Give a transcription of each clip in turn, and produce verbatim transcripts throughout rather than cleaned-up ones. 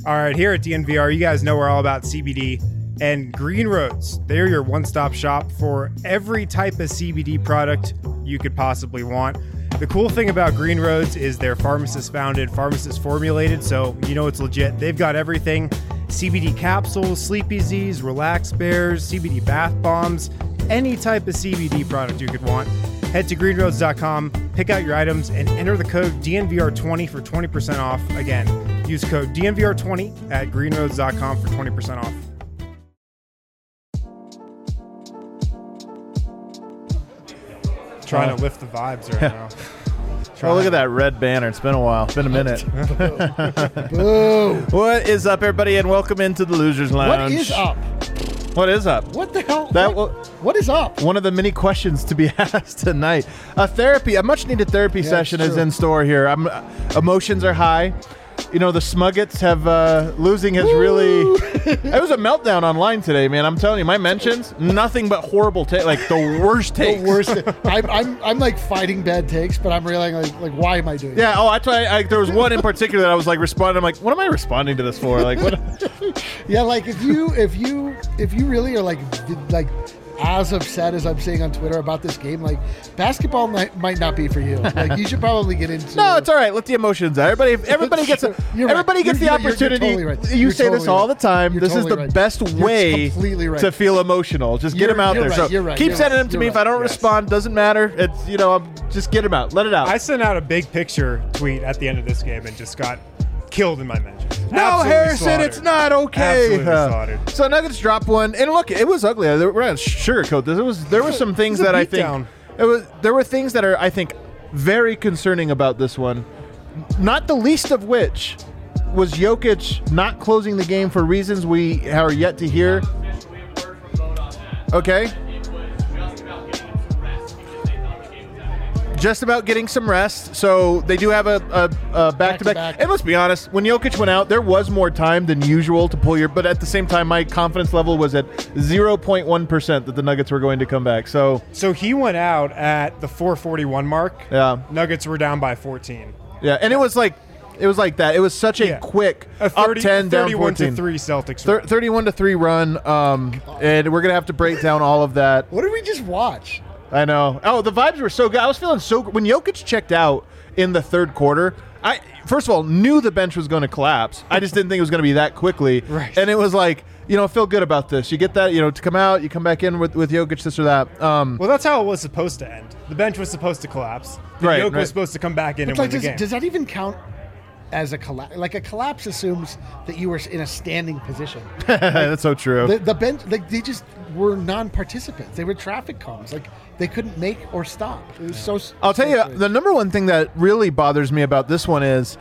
All right, here at D N V R, you guys know we're all about C B D. And Green Roads, they're your one-stop shop for every type of C B D product you could possibly want. The cool thing about Green Roads is they're pharmacist-founded, pharmacist-formulated, so you know it's legit. They've got everything. C B D capsules, Sleepy Z's, Relax Bears, C B D bath bombs, any type of C B D product you could want. Head to green roads dot com, pick out your items, and enter the code D N V R twenty for twenty percent off. Again, use code D N V R twenty at green roads dot com for twenty percent off. Trying uh, to lift the vibes right now. Oh, look at that red banner. It's been a while. It's been a minute. Boo. What is up, everybody, and welcome into the Losers Lounge. What is up? What is up? What the hell? That what, will, what is up? One of the many questions to be asked tonight. A therapy, a much-needed therapy yeah, session is in store here. I'm, emotions are high. You know, the Smuggets have, uh, losing has Woo! really, it was a meltdown online today, man. I'm telling you, my mentions, nothing but horrible takes, like the worst takes. The worst. I'm, I'm, I'm like fighting bad takes, but I'm realizing like, like why am I doing Yeah, oh, that's why I, there was one in particular that I was like responding. I'm like, what am I responding to this for? Like, what? Yeah, like if you, if you, if you really are like, like, as upset as I'm saying on Twitter about this game, like basketball might, might not be for you. Like you should probably get into. No, it's all right. Let the emotions out. Everybody, everybody gets a, everybody right. gets you're, the you're, opportunity. You're, you're totally right. You you're say totally this all right. the time. You're this totally is the right. best way right. to feel emotional. Just get you're, them out there. Right. So you're right. keep you're sending right. them to you're me. right. If I don't yes. respond, doesn't matter. It's you know, just get them out. Let it out. I sent out a big picture tweet at the end of this game and just got killed in my mentions. No, Absolutely Harrison, slaughtered. it's not okay. Absolutely Uh, slaughtered. so Nuggets dropped one, and look, it was ugly. We're not sugarcoat this. It was there were some things that I think down. it was. There were things that are I think very concerning about this one. Not the least of which was Jokic not closing the game for reasons we are yet to hear. Okay. Just about getting some rest. So they do have a, a, a back-to-back. Back-to-back. And let's be honest, when Jokic went out, there was more time than usual to pull your... But at the same time, my confidence level was at zero point one percent that the Nuggets were going to come back. So So he went out at the four forty-one mark. Yeah. Nuggets were down by fourteen. Yeah, and it was like... It was like that. It was such a Yeah. quick A thirty, up ten, down thirty-one fourteen. to three Celtics. Thir- run. thirty-one to three run. Um, and we're going to have to break down all of that. What did we just watch? I know. Oh, the vibes were so good. I was feeling so good. When Jokic checked out in the third quarter, I first of all knew the bench was going to collapse. I just didn't think it was going to be that quickly. Right. And it was like, you know, feel good about this. You get that, you know, to come out, you come back in with, with Jokic, this or that. Um, Well, that's how it was supposed to end. The bench was supposed to collapse. The Right, Jokic right. was supposed to come back in But and like, win the does, game. does that even count as a collapse? Like a collapse assumes that you were in a standing position. that's so true. The, the bench, like they just were non-participants. They were traffic cones. Like they couldn't make or stop. It was so. I'll tell so you, strange. the number one thing that really bothers me about this one is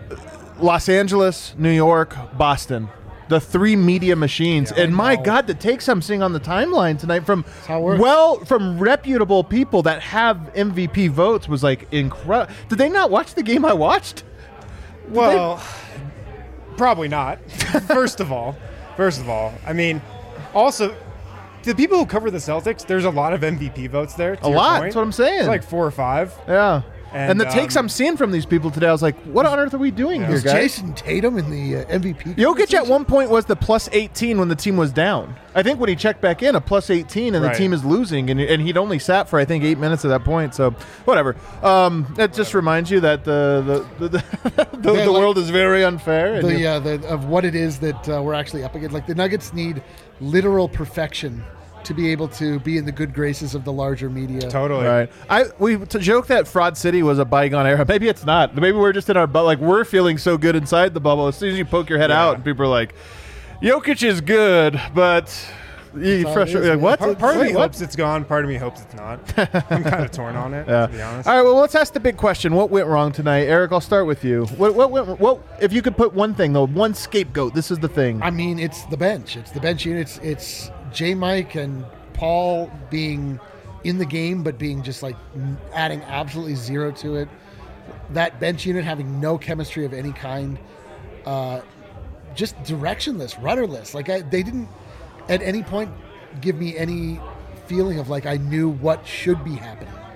Los Angeles, New York, Boston. The three media machines. Yeah, and I my know. God, the takes I'm seeing on the timeline tonight from how it works. well, from reputable people that have M V P votes was like incredible. Did they not watch the game I watched? Did Well, probably not. First of all, first of all, I mean, also, the people who cover the Celtics, there's a lot of M V P votes there. to A your lot. point. That's what I'm saying. It's like four or five. they? Yeah. And, And, the takes um, I'm seeing from these people today, I was like, what on earth are we doing Yeah. here, Was guys? Jason Tatum in the uh, M V P? Jokic at conversation? one point was the plus eighteen when the team was down. I think when he checked back in, a plus eighteen, and Right. the team is losing, and, and he'd only sat for, I think, eight minutes at that point. So, whatever. Um, that just reminds you that the the, the, the, Yeah, the like- world is very unfair. and the, you- uh, the of what it is that uh, we're actually up against. Like the Nuggets need literal perfection to be able to be in the good graces of the larger media. Totally. Right. I we to joke that Fraud City was a bygone era. Maybe it's not. Maybe we're just in our bubble. Like we're feeling so good inside the bubble. As soon as you poke your head Yeah. out, and people are like, "Jokic is good," but you all it frustrate. is, Like, man. what? Part, part of Wait, me what? hopes it's gone. Part of me hopes it's not. I'm kind of torn on it, Yeah. to be honest. All right. Well, let's ask the big question. What went wrong tonight, Eric? I'll start with you. What? What? Went, what? If you could put one thing, though, one scapegoat. This is the thing. I mean, it's the bench. It's the bench unit. It's, it's J. Mike and Paul being in the game, but being just like n- adding absolutely zero to it. That bench unit having no chemistry of any kind. Uh, just directionless, rudderless. Like I, they didn't at any point give me any feeling of like I knew what should be happening.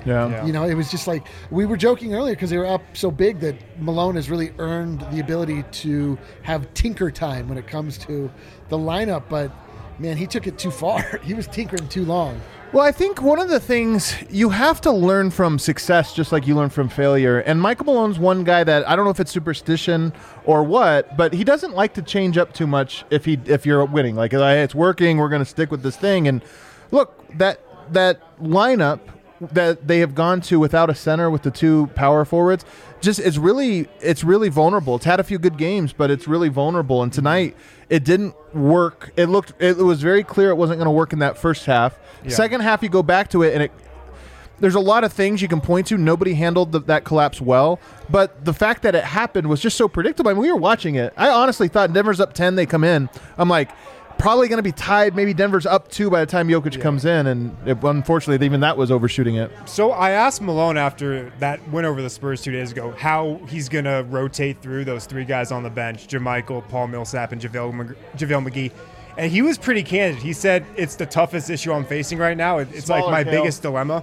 Yeah. Yeah. You know, it was just like we were joking earlier because they were up so big that Malone has really earned the ability to have tinker time when it comes to the lineup. But man, he took it too far. He was tinkering too long. Well, I think one of the things you have to learn from success, just like you learn from failure. And Michael Malone's one guy that I don't know if it's superstition or what, but he doesn't like to change up too much if he if you're winning. Like, hey, it's working, we're going to stick with this thing. And look, that that lineup that they have gone to without a center with the two power forwards, just it's really it's really vulnerable. It's had a few good games, but it's really vulnerable. And tonight it didn't work. It looked it was very clear it wasn't going to work in that first half. Yeah. Second half, you go back to it, and it there's a lot of things you can point to. Nobody handled the, that collapse well, but the fact that it happened was just so predictable. I mean, we were watching it. I honestly thought Denver's up ten, they come in. I'm like, probably going to be tied. Maybe Denver's up two by the time Jokic yeah. comes in, and it, unfortunately, even that was overshooting it. So I asked Malone after that win over the Spurs two days ago how he's going to rotate through those three guys on the bench, JaMychal, Paul Millsap, and JaVale, JaVale McGee. And he was pretty candid. He said, it's the toughest issue I'm facing right now. It, it's Smaller like my tail. biggest dilemma.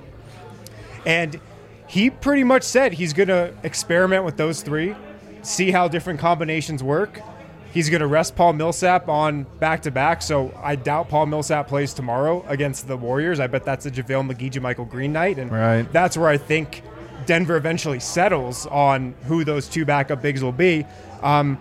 And he pretty much said he's going to experiment with those three, see how different combinations work. He's going to rest Paul Millsap on back-to-back, so I doubt Paul Millsap plays tomorrow against the Warriors. I bet that's a JaVale McGee, JaMychal Green night, and right. that's where I think Denver eventually settles on who those two backup bigs will be. Um,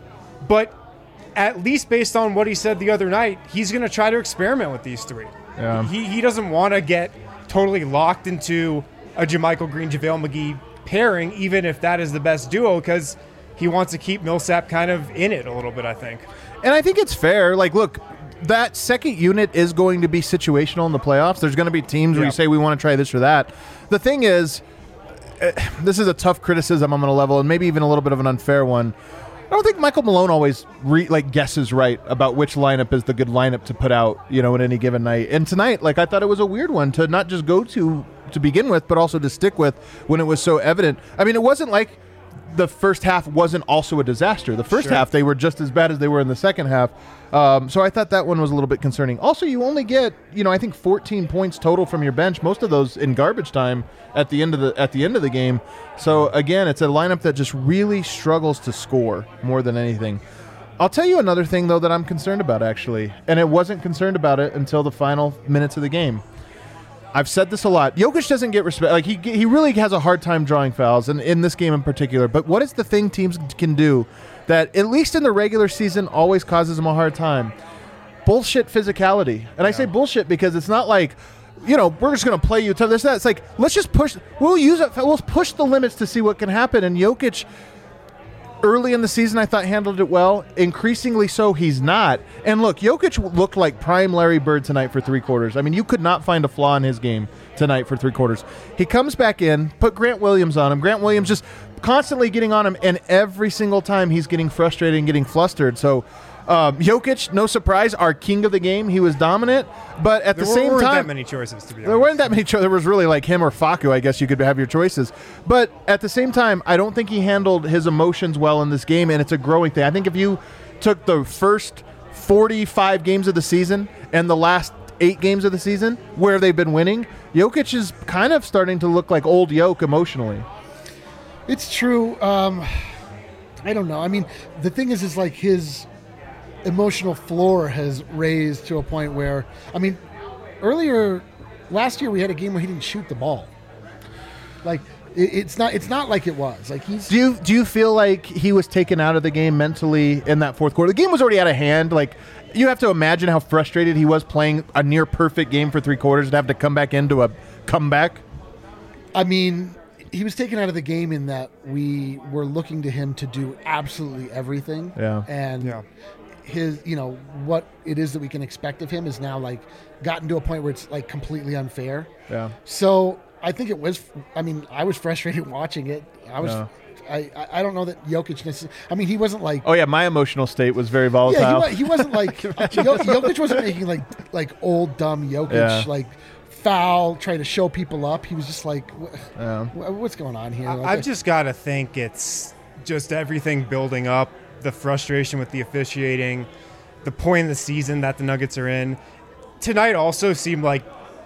but at least based on what he said the other night, he's going to try to experiment with these three. Yeah. He, he doesn't want to get totally locked into a JaMychal Green, JaVale McGee pairing, even if that is the best duo, because he wants to keep Millsap kind of in it a little bit, I think. And I think it's fair. Like, look, that second unit is going to be situational in the playoffs. There's going to be teams yeah. where you say we want to try this or that. The thing is, uh, this is a tough criticism I'm going to level, and maybe even a little bit of an unfair one. I don't think Michael Malone always re, like guesses right about which lineup is the good lineup to put out, you know, in any given night. And tonight, like, I thought it was a weird one to not just go to to begin with, but also to stick with when it was so evident. I mean, it wasn't like the first half wasn't also a disaster. The first sure. half, they were just as bad as they were in the second half. Um, so I thought that one was a little bit concerning. Also, you only get, you know, I think fourteen points total from your bench, most of those in garbage time at the end of the at the end of the game. So again, it's a lineup that just really struggles to score more than anything. I'll tell you another thing, though, that I'm concerned about, actually, and it wasn't concerned about it until the final minutes of the game. I've said this a lot. Jokic doesn't get respect. Like he he really has a hard time drawing fouls, and in this game in particular. But what is the thing teams can do that, at least in the regular season, always causes them a hard time? Bullshit physicality. And yeah. I say bullshit because it's not like, you know, we're just going to play you tough. This, that. It's like, let's just push. We'll use it. We'll push the limits to see what can happen. And Jokic, early in the season, I thought handled it well. Increasingly so, he's not. And look, Jokic looked like prime Larry Bird tonight for three quarters. I mean, you could not find a flaw in his game tonight for three quarters. He comes back in, put Grant Williams on him. Grant Williams just constantly getting on him, and every single time he's getting frustrated and getting flustered. So um, Jokic, no surprise, our king of the game. He was dominant, but at there the same time, there weren't that time, many choices. To be honest, there weren't that many choices. There was really like him or Facu. I guess you could have your choices, but at the same time, I don't think he handled his emotions well in this game, and it's a growing thing. I think if you took the first forty-five games of the season and the last eight games of the season where they've been winning, Jokic is kind of starting to look like old Jokic emotionally. It's true. Um, I don't know. I mean, the thing is, is like his emotional floor has raised to a point where, I mean, earlier last year we had a game where he didn't shoot the ball. Like it, it's not, it's not like it was. Like he's. Do you do you feel like he was taken out of the game mentally in that fourth quarter? The game was already out of hand. Like you have to imagine how frustrated he was playing a near perfect game for three quarters and have to come back into a comeback. I mean, he was taken out of the game in that we were looking to him to do absolutely everything. Yeah. And yeah. his, you know, what it is that we can expect of him is now like gotten to a point where it's like completely unfair. Yeah. So I think it was, I mean, I was frustrated watching it. I was, yeah. I, I don't know that Jokic necessarily, I mean, he wasn't like. Oh, yeah. My emotional state was very volatile. Yeah, he, he wasn't like, Jokic wasn't making like, like old, dumb Jokic, yeah. like, foul, trying to show people up. He was just like, yeah. what's going on here? Like, I've just got to think it's just everything building up, the frustration with the officiating, the point in the season that the Nuggets are in. Tonight also seemed like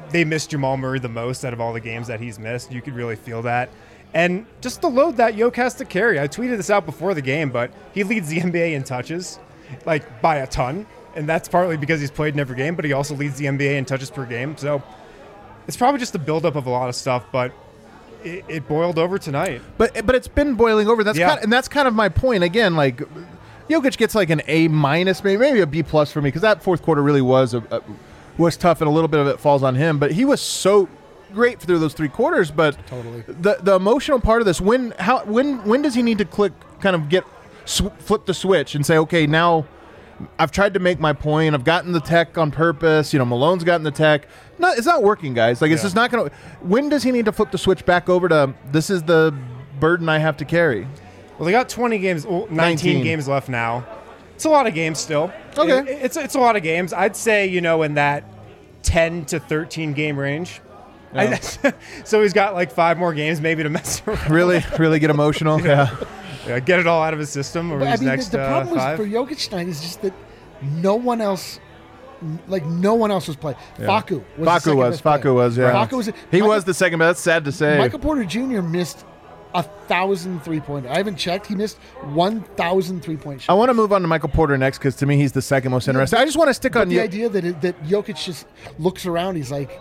they missed Jamal Murray the most out of all the games that he's missed. You could really feel that. And just the load that Yoke has to carry. I tweeted this out before the game, but he leads the N B A in touches, like by a ton. And that's partly because he's played in every game, but he also leads the N B A in touches per game. So it's probably just a buildup of a lot of stuff, but it, it boiled over tonight. But but it's been boiling over. That's Yeah. kind of, and that's kind of my point. Again, like Jokic gets like an A minus, maybe maybe a B plus for me, because that fourth quarter really was a, a, was tough, and a little bit of it falls on him. But he was so great through those three quarters. But Totally. the the emotional part of this, when how when when does he need to click, kind of get sw- flip the switch and say, okay, now I've tried to make my point. I've gotten the tech on purpose. You know, Malone's gotten the tech. No, it's not working, guys. Like, it's Yeah. just not going to. When does he need to flip the switch back over to this is the burden I have to carry? Well, they got twenty games, well, nineteen, nineteen games left now. It's a lot of games still. Okay. It- it's it's a lot of games. I'd say, you know, in that ten to thirteen game range. Yeah. I, so he's got like five more games maybe to mess around. Really, really get emotional. Yeah. Yeah, get it all out of his system over But, I these mean, next the, the uh, problem five. was for Jokic tonight is just that no one else, like no one else was playing. Facu was the Facu second was. best player. Facu was. Yeah. Facu was. He Michael- was the second best. That's sad to say. Michael Porter Junior missed a thousand three pointers. I haven't checked. He missed one thousand three point I shots. want to move on to Michael Porter next, because to me he's the second most interesting. I just want to stick But on the you. idea that it, that Jokic just looks around, he's like,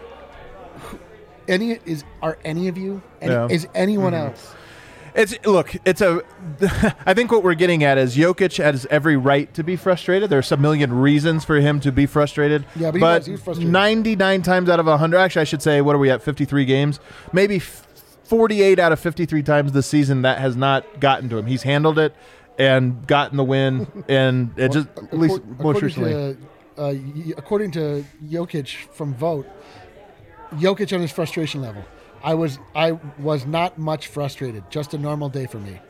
"Who- any is are any of you? Any, Yeah. Is anyone Mm-hmm. else? It's look. It's a. I think what we're getting at is Jokic has every right to be frustrated. There's a million reasons for him to be frustrated. Yeah, but he was- he was frustrated. ninety-nine times out of one hundred, actually, I should say, what are we at? fifty-three games, maybe forty-eight out of fifty-three times this season that has not gotten to him. He's handled it and gotten the win, and it just at least Accor- most according recently. to, uh, y- according to Jokic from Vote, Jokic on his frustration level. I was I was not much frustrated. Just a normal day for me.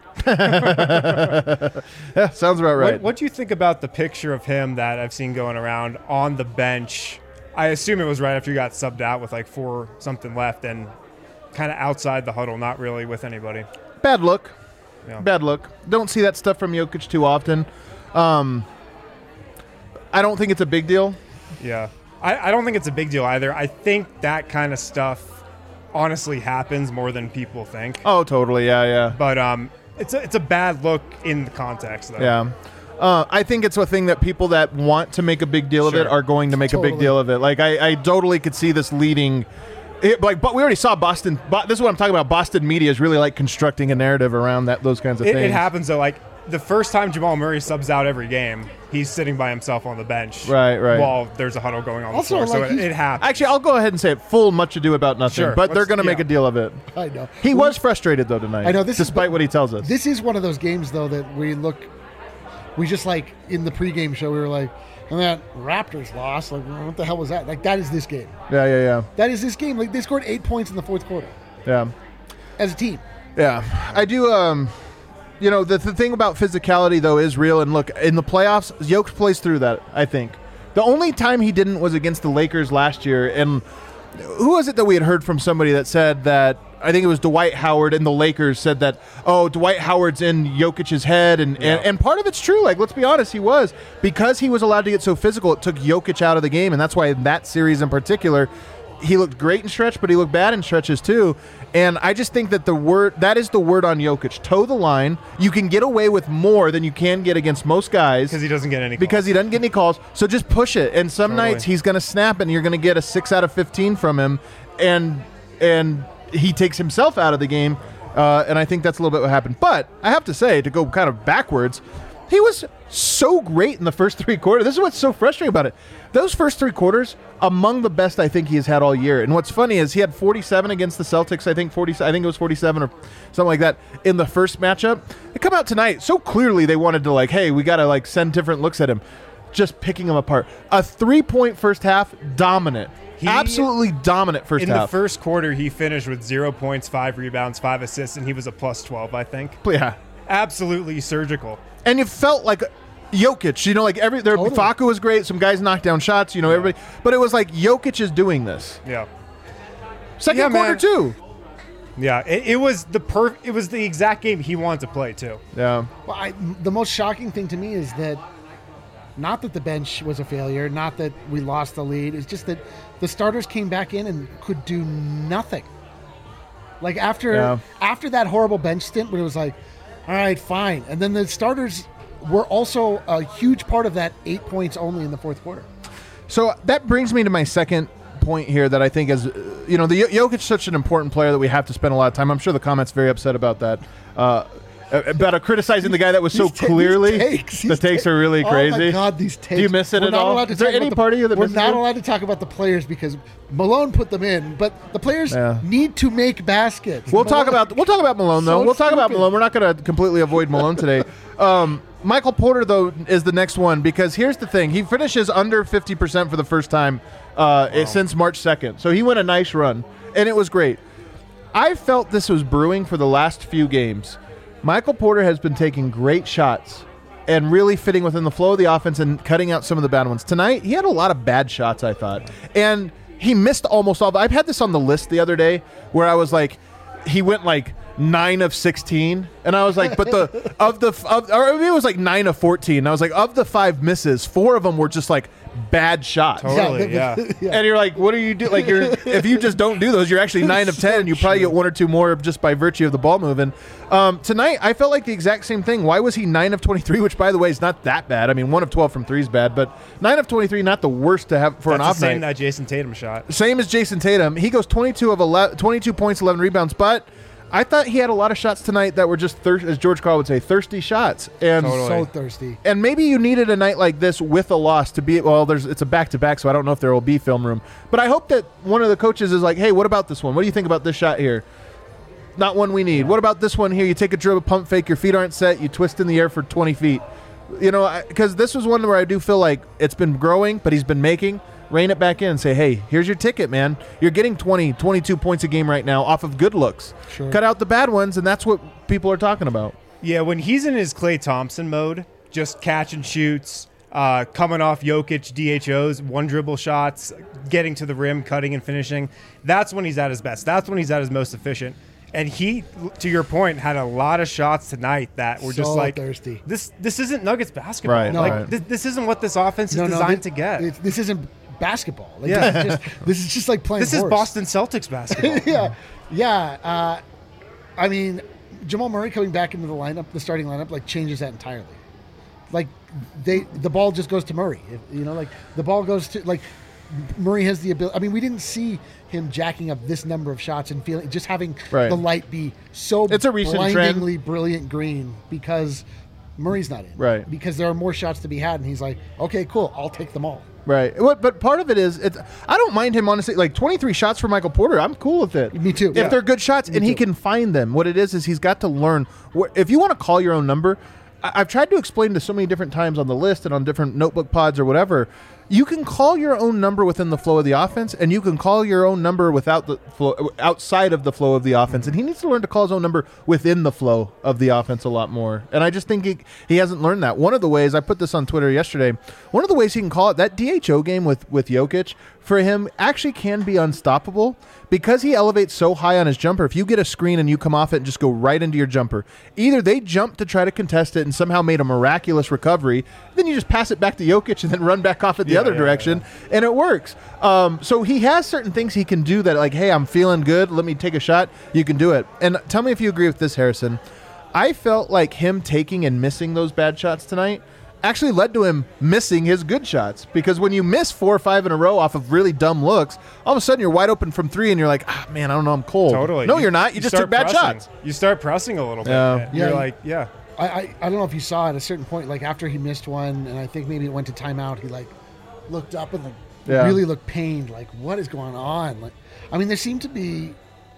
Yeah, sounds about right. What, what do you think about the picture of him that I've seen going around on the bench? I assume it was right after you got subbed out with like four something left and kind of outside the huddle, not really with anybody. Bad look. Yeah. Bad look. Don't see that stuff from Jokic too often. Um, I don't think it's a big deal. Yeah. I, I don't think it's a big deal either. I think that kind of stuff honestly happens more than people think. Oh, totally. Yeah, yeah. But um, it's a, it's a bad look in the context, though. Yeah. Uh, I think it's a thing that people that want to make a big deal of it Sure. are going to make a big Totally. deal of it. Like, I, I totally could see this leading. It, like, but we already saw Boston. Bo- this is what I'm talking about. Boston media is really like constructing a narrative around that, those kinds of It, things. it happens, though. Like, the first time Jamal Murray subs out every game, he's sitting by himself on the bench. Right, right. While there's a huddle going on Also, the floor. like, so it, he's- it happens. Actually, I'll go ahead and say it. Full much ado about nothing. Sure. But they're Let's- going to make yeah. a deal of it. I know. He We- was frustrated though tonight. I know, this is- despite what he tells us. This is one of those games, though, that we look. We just like in the pregame show, we were like, and that Raptors lost. Like, what the hell was that? Like, that is this game. yeah, yeah, yeah, That is this game. Like, they scored eight points in the fourth quarter yeah. as a team. Yeah, I do. Um, you know, the, the thing about physicality though is real. And look, in the playoffs, Jokic plays through that. I think the only time he didn't was against the Lakers last year. And who was it that we had heard from somebody that said that? I think it was Dwight Howard and the Lakers said that. Oh, Dwight Howard's in Jokic's head, and, Yeah. and and part of it's true. Like, let's be honest, he was because he was allowed to get so physical. It took Jokic out of the game, and that's why in that series in particular, he looked great in stretch, but he looked bad in stretches too. And I just think that the word that is the word on Jokic: toe the line. You can get away with more than you can get against most guys Because he doesn't get any calls. because he doesn't get any calls. So just push it. And some Totally. nights he's going to snap, and you're going to get a six out of fifteen from him, and and he takes himself out of the game. Uh, and I think that's a little bit what happened. But I have to say, to go kind of backwards, he was so great in the first three quarters. This is what's so frustrating about it. Those first three quarters, among the best I think he has had all year. And what's funny is he had forty-seven against the Celtics. I think forty. I think it was forty-seven or something like that in the first matchup. They come out tonight so clearly they wanted to like, hey, we got to like send different looks at him, just picking him apart. A three-point first half, dominant, He- absolutely dominant first In half. the first quarter, he finished with zero points, five rebounds, five assists, and he was a plus twelve, I think. yeah. Absolutely surgical. And it felt like Jokic, you know, like every there Totally. Facu was great, some guys knocked down shots, you know, everybody, but it was like Jokic is doing this. Yeah. Second Yeah, quarter man. too. Yeah, it, it was the perf- It was the exact game he wanted to play too. Yeah. Well, I, the most shocking thing to me is that Not that the bench was a failure, not that we lost the lead. It's just that the starters came back in and could do nothing. Like after Yeah. after that horrible bench stint, when it was like, all right, fine. And then the starters were also a huge part of that eight points only in the fourth quarter. So that brings me to my second point here that I think is, uh, you know, the Jokic is such an important player that we have to spend a lot of time. I'm sure the comment's very upset about that. Uh, about uh, criticizing the guy that was so These ta- clearly. these takes, the these takes ta- are really crazy. Oh my God, these takes. Do you miss it We're at not all? allowed to Is there talk any about part the, of you that We're misses not it? allowed to talk about the players because Malone put them in, but the players Yeah. need to make baskets. We'll talk Malone- about we'll talk about Malone though. So we'll talk about stupid. Malone. We're not going to completely avoid Malone today. Um, Michael Porter though is the next one because here's the thing: he finishes under fifty percent for the first time uh, wow. since March second. So he went a nice run, and it was great. I felt this was brewing for the last few games. Michael Porter has been taking great shots and really fitting within the flow of the offense and cutting out some of the bad ones. Tonight, he had a lot of bad shots, I thought. And he missed almost all. I've had this on the list the other day where I was like, he went like nine of sixteen. And I was like, but the, of the, of, or maybe it was like nine of fourteen. And I was like, of the five misses, four of them were just like bad shots. Totally, Yeah, yeah. yeah. And you're like, what do you do? Like, you're if you just don't do those, you're actually nine of ten, and you probably get one or two more just by virtue of the ball moving. Um, tonight, I felt like the exact same thing. Why was he nine of twenty-three? Which, by the way, is not that bad. I mean, one of twelve from three is bad, but nine of twenty-three, not the worst to have for That's an off the same night. that Jason Tatum shot. Same as Jason Tatum. He goes twenty-two of eleven, twenty-two points, eleven rebounds, but I thought he had a lot of shots tonight that were just, thir- as George Carl would say, thirsty shots. And Totally. So thirsty. and maybe you needed a night like this with a loss to be, well, there's it's a back-to-back, so I don't know if there will be film room. But I hope that one of the coaches is like, hey, what about this one? What do you think about this shot here? Not one we need. What about this one here? You take a dribble, pump fake, your feet aren't set, you twist in the air for twenty feet. You know, because this was one where I do feel like it's been growing, but he's been making. Rein it back in and say, hey, here's your ticket, man. You're getting twenty, twenty-two points a game right now off of good looks. Sure. Cut out the bad ones, and that's what people are talking about. Yeah, when he's in his Klay Thompson mode, just catch and shoots, uh, coming off Jokic D H Os, one dribble shots, getting to the rim, cutting and finishing, that's when he's at his best. That's when he's at his most efficient. And he, to your point, had a lot of shots tonight that were just So like, thirsty. this This isn't Nuggets basketball. Right, No. like right. This, this isn't what this offense is No, no, designed thi- to get. it- This isn't basketball. Like, Yeah. this, is just, this is just like playing This is horse. Boston Celtics basketball. yeah, yeah. Uh, I mean, Jamal Murray coming back into the lineup, the starting lineup, like changes that entirely. Like they, the ball just goes to Murray. If, you know, like the ball goes to like Murray has the ability. I mean, we didn't see him jacking up this number of shots and feeling just having Right. the light be so It's a recent trend. blindingly brilliant green because Murray's not in. Right. Because there are more shots to be had, and he's like, okay, cool, I'll take them all. Right. What? But part of it is, it's, I don't mind him, honestly. Like, twenty-three shots for Michael Porter, I'm cool with it. Me too. If Yeah. they're good shots Me and he too. can find them. What it is is he's got to learn. Wh- if you want to call your own number, I- I've tried to explain to so many different times on the list and on different notebook pods or whatever, you can call your own number within the flow of the offense, and you can call your own number without the flow, outside of the flow of the offense. And he needs to learn to call his own number within the flow of the offense a lot more. And I just think he, he hasn't learned that. One of the ways, I put this on Twitter yesterday, one of the ways he can call it, that D H O game with, with Jokic, for him actually can be unstoppable because he elevates so high on his jumper. If you get a screen and you come off it and just go right into your jumper, either they jump to try to contest it and somehow made a miraculous recovery, then you just pass it back to Jokic and then run back off it the Yeah, other yeah, direction, and it works. Um, so he has certain things he can do that, like, hey, I'm feeling good, let me take a shot, you can do it. And tell me if you agree with this, Harrison. I felt like him taking and missing those bad shots tonight actually led to him missing his good shots, because when you miss four or five in a row off of really dumb looks, all of a sudden you're wide open from three and you're like, ah, man, I don't know, I'm cold. Totally. No, you're not. You, just start took bad pressing. shots. You start pressing a little bit. Yeah. and Yeah. You're like, yeah. I, I, I don't know if you saw at a certain point, like after he missed one, and I think maybe it went to timeout, he like looked up and like Yeah. really looked pained, like what is going on? Like, I mean, there seemed to be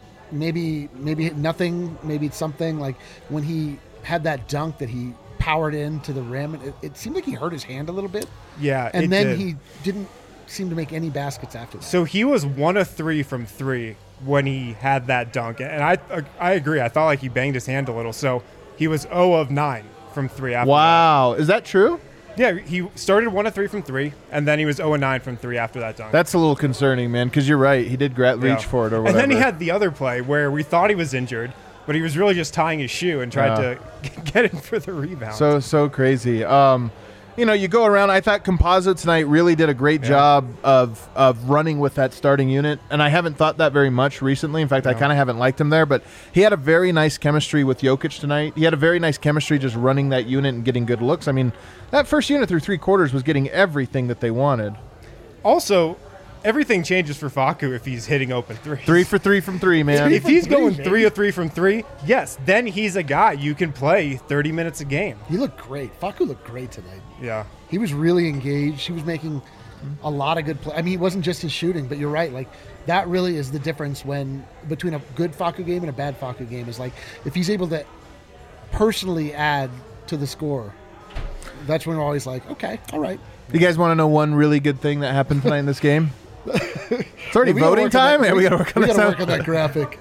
maybe maybe nothing, maybe it's something like when he had that dunk that he powered into the rim, it, it seemed like he hurt his hand a little bit, Yeah. and it then did. he didn't seem to make any baskets after that. So he was one of three from three when he had that dunk, and I I agree. I thought like he banged his hand a little, so he was zero of nine from three after. Wow. Is that true? that. Yeah, he started one of three from three, and then he was zero of nine from three after that dunk. That's a little concerning, man, because you're right. He did gra- Yeah. reach for it or whatever. And then he had the other play where we thought he was injured, but he was really just tying his shoe and tried Yeah. to get in for the rebound. So so crazy. Um, you know, you go around. I thought Composite tonight really did a great yeah. job of of running with that starting unit, and I haven't thought that very much recently. In fact, no. I kind of haven't liked him there, but he had a very nice chemistry with Jokic tonight. He had a very nice chemistry just running that unit and getting good looks. I mean, that first unit through three quarters was getting everything that they wanted. Also, everything changes for Facu if he's hitting open threes. Three for three from three, man. If he's going three or three from three, yes, then he's a guy you can play thirty minutes a game. He looked great. Facu looked great tonight. Yeah. He was really engaged. He was making a lot of good play. I mean, it wasn't just his shooting, but you're right. Like, that really is the difference when between a good Facu game and a bad Facu game is like if he's able to personally add to the score, that's when we're always like, okay, all right. You guys want to know one really good thing that happened tonight in this game? It's already yeah, voting time, and we got to work on we that. We got to work on that graphic.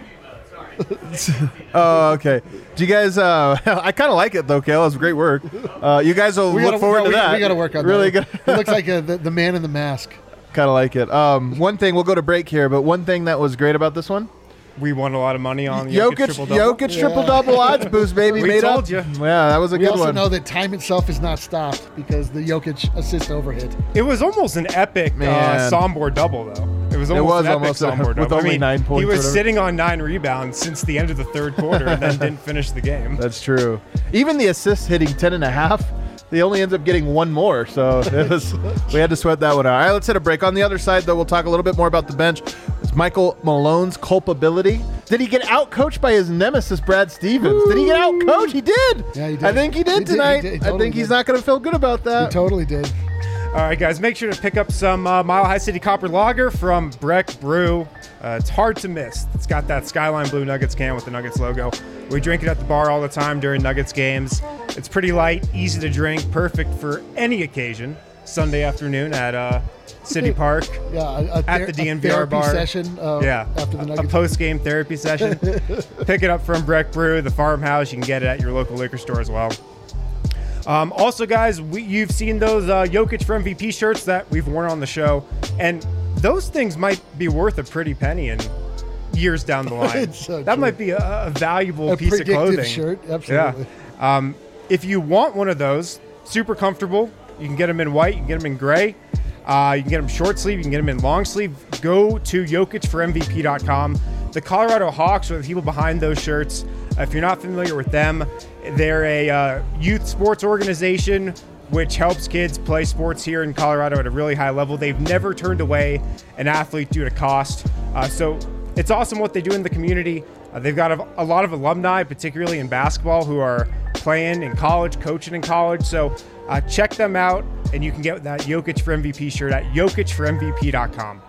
Oh, okay. Do you guys? Uh, I kind of like it though, Kale. It's great work. Uh, you guys will we look gotta, forward no, to we, that. We got to work on really that. Really good. It looks like a, the, the man in the mask. Kind of like it. Um, one thing, we'll go to break here, but one thing that was great about this one. We won a lot of money on Jokic, Jokic triple-double. Jokic yeah. triple-double odds boost, baby. We made told up. you. Yeah, that was a we good one. We also one. know that time itself is not stopped because the Jokic assist overhit. It was almost an epic uh, Sombor double, though. It was almost it was an almost epic Sombor double. With only I mean, nine points. He was sitting on nine rebounds since the end of the third quarter and then didn't finish the game. That's true. Even the assists hitting ten and a half, they only ends up getting one more. So it was, we had to sweat that one out. All right, let's hit a break. On the other side, though, we'll talk a little bit more about the bench. It's Michael Malone's culpability. Did he get out-coached by his nemesis, Brad Stevens? Woo! Did he get out-coached? He did. Yeah, he did. I think he did he tonight. Did. He did. He totally I think did. he's not going to feel good about that. He totally did. All right, guys, make sure to pick up some uh, Mile High City Copper Lager from Breck Brew. Uh, it's hard to miss. It's got that Skyline Blue Nuggets can with the Nuggets logo. We drink it at the bar all the time during Nuggets games. It's pretty light, easy to drink, perfect for any occasion. Sunday afternoon at uh, City Park. Yeah, a, a at ther- the D N V a R therapy bar. Session, uh, yeah, after the Nuggets. A post-game therapy session. Pick it up from Breck Brew, the farmhouse. You can get it at your local liquor store as well. Um, also, guys, we, you've seen those uh, Jokic for M V P shirts that we've worn on the show, and those things might be worth a pretty penny in years down the line. so that true. might be a, a valuable a piece of clothing. Shirt, absolutely. Yeah. Um, if you want one of those, super comfortable. You can get them in white. You can get them in gray. Uh, you can get them short sleeve. You can get them in long sleeve. Go to Jokic for M V P dot com. The Colorado Hawks are the people behind those shirts. Uh, if you're not familiar with them, they're a uh, youth sports organization which helps kids play sports here in Colorado at a really high level. They've never turned away an athlete due to cost. Uh, so it's awesome what they do in the community. Uh, they've got a, a lot of alumni, particularly in basketball, who are playing in college, coaching in college. So uh, check them out, and you can get that Jokic for M V P shirt at Jokic for M V P dot com.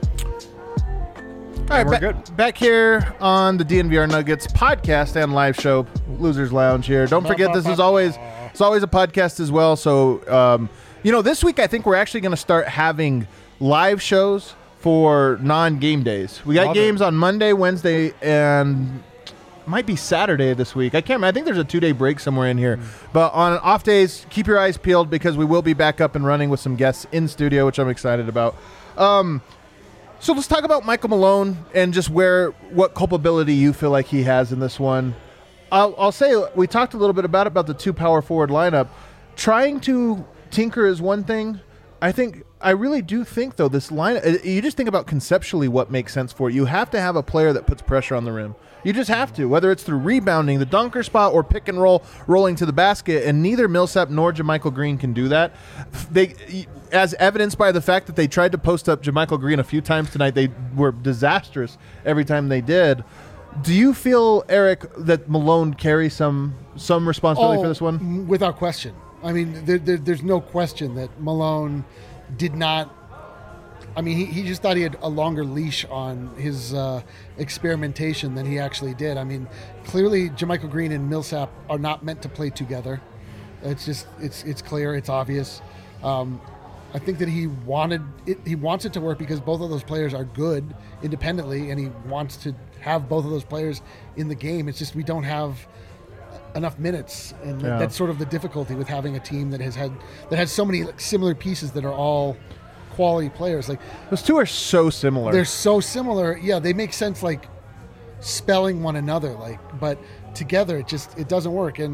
All right, we're ba- good. back here on the D N V R Nuggets podcast and live show, Losers Lounge here. Don't forget, this is always it's always a podcast as well. So, um, you know, this week I think we're actually going to start having live shows for non-game days. We got Love games it. on Monday, Wednesday, and might be Saturday this week. I can't remember. I think there's a two-day break somewhere in here. Mm. But on off days, keep your eyes peeled because we will be back up and running with some guests in studio, which I'm excited about. Um, so let's talk about Michael Malone and just where what culpability you feel like he has in this one. I'll, I'll say we talked a little bit about about the two power forward lineup. Trying to tinker is one thing. I think I really do think though this line. You just think about conceptually what makes sense for it. You have to have a player that puts pressure on the rim. You just have to, whether it's through rebounding, the dunker spot, or pick and roll, rolling to the basket, and neither Millsap nor JaMychal Green can do that. They, as evidenced by the fact that they tried to post up JaMychal Green a few times tonight, they were disastrous every time they did. Do you feel, Eric, that Malone carries some some responsibility oh, for this one? Without question. I mean, there, there, there's no question that Malone did not. I mean, he, he just thought he had a longer leash on his uh, experimentation than he actually did. I mean, clearly JaMychal Green and Millsap are not meant to play together. It's just it's it's clear, it's obvious. Um, I think that he wanted it. He wants it to work because both of those players are good independently, and he wants to have both of those players in the game. It's just we don't have enough minutes, and Yeah. that's sort of the difficulty with having a team that has had that has so many like, similar pieces that are all quality players. Like Those two are so similar. they're so similar. Yeah, they make sense like spelling one another. Like, but together it just it doesn't work. And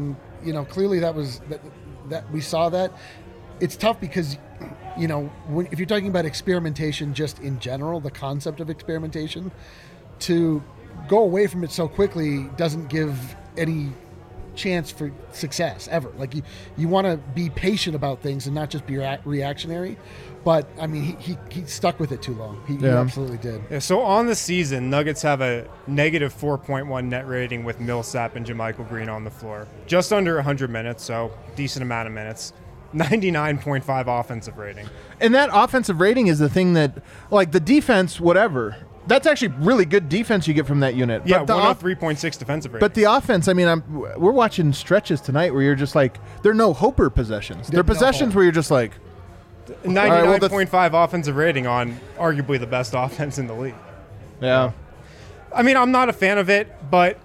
you know, clearly that was that, that we saw that. It's tough because, you know, when, if you're talking about experimentation just in general, the concept of experimentation, to go away from it so quickly doesn't give any chance for success ever. Like you, you want to be patient about things and not just be rea- reactionary. But I mean, he, he he stuck with it too long. He, yeah. he absolutely did. Yeah, so on the season, Nuggets have a negative four point one net rating with Millsap and JaMychal Green on the floor. Just under one hundred minutes, so decent amount of minutes. ninety-nine point five offensive rating. And that offensive rating is the thing that, like the defense, whatever. That's actually really good defense you get from that unit. Yeah, but the one oh three point six defensive rating. But the offense, I mean, I'm, we're watching stretches tonight where you're just like, there are no Hoper possessions. There are possessions no where you're just like, ninety-nine point five right, well, offensive rating on arguably the best offense in the league. Yeah. I mean, I'm not a fan of it, but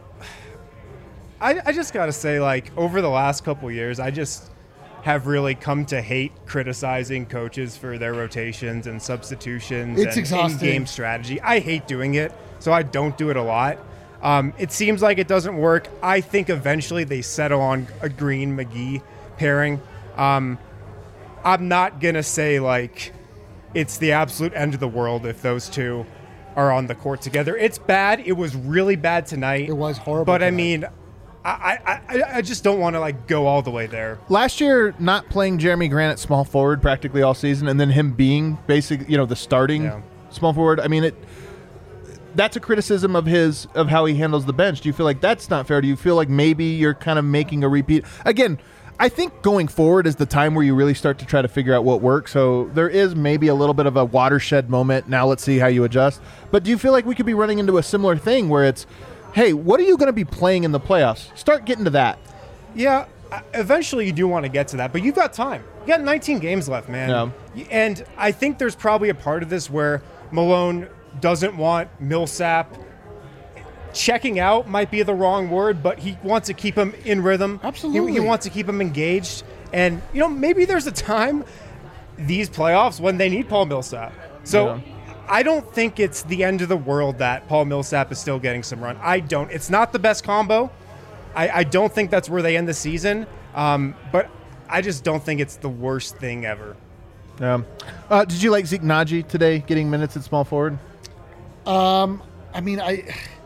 I, I just got to say, like, over the last couple of years, I just have really come to hate criticizing coaches for their rotations and substitutions it's and exhausting. in-game strategy. I hate doing it, so I don't do it a lot. Um, it seems like it doesn't work. I think eventually they settle on a Green-McGee pairing. Um, I'm not going to say, like, it's the absolute end of the world if those two are on the court together. It's bad. It was really bad tonight. It was horrible But, tonight. I mean, I, I, I just don't want to, like, go all the way there. Last year, not playing Jeremy Grant at small forward practically all season, and then him being basically, you know, the starting Yeah. small forward. I mean, it. That's a criticism of his of how he handles the bench. Do you feel like that's not fair? Do you feel like maybe you're kind of making a repeat? Again, I think going forward is the time where you really start to try to figure out what works. So there is maybe a little bit of a watershed moment. Now let's see how you adjust. But do you feel like we could be running into a similar thing where it's, hey, what are you going to be playing in the playoffs? Start getting to that. Yeah, eventually you do want to get to that, but you've got time. You got nineteen games left, man. Yeah. And I think there's probably a part of this where Malone doesn't want Millsap. Checking out might be the wrong word, but he wants to keep him in rhythm. Absolutely. He, he wants to keep him engaged. And, you know, maybe there's a time these playoffs when they need Paul Millsap. So Yeah. I don't think it's the end of the world that Paul Millsap is still getting some run. I don't. It's not the best combo. I, I don't think that's where they end the season. Um, but I just don't think it's the worst thing ever. Um, uh, did you like Zeke Naji today getting minutes at small forward? Um, I mean, I.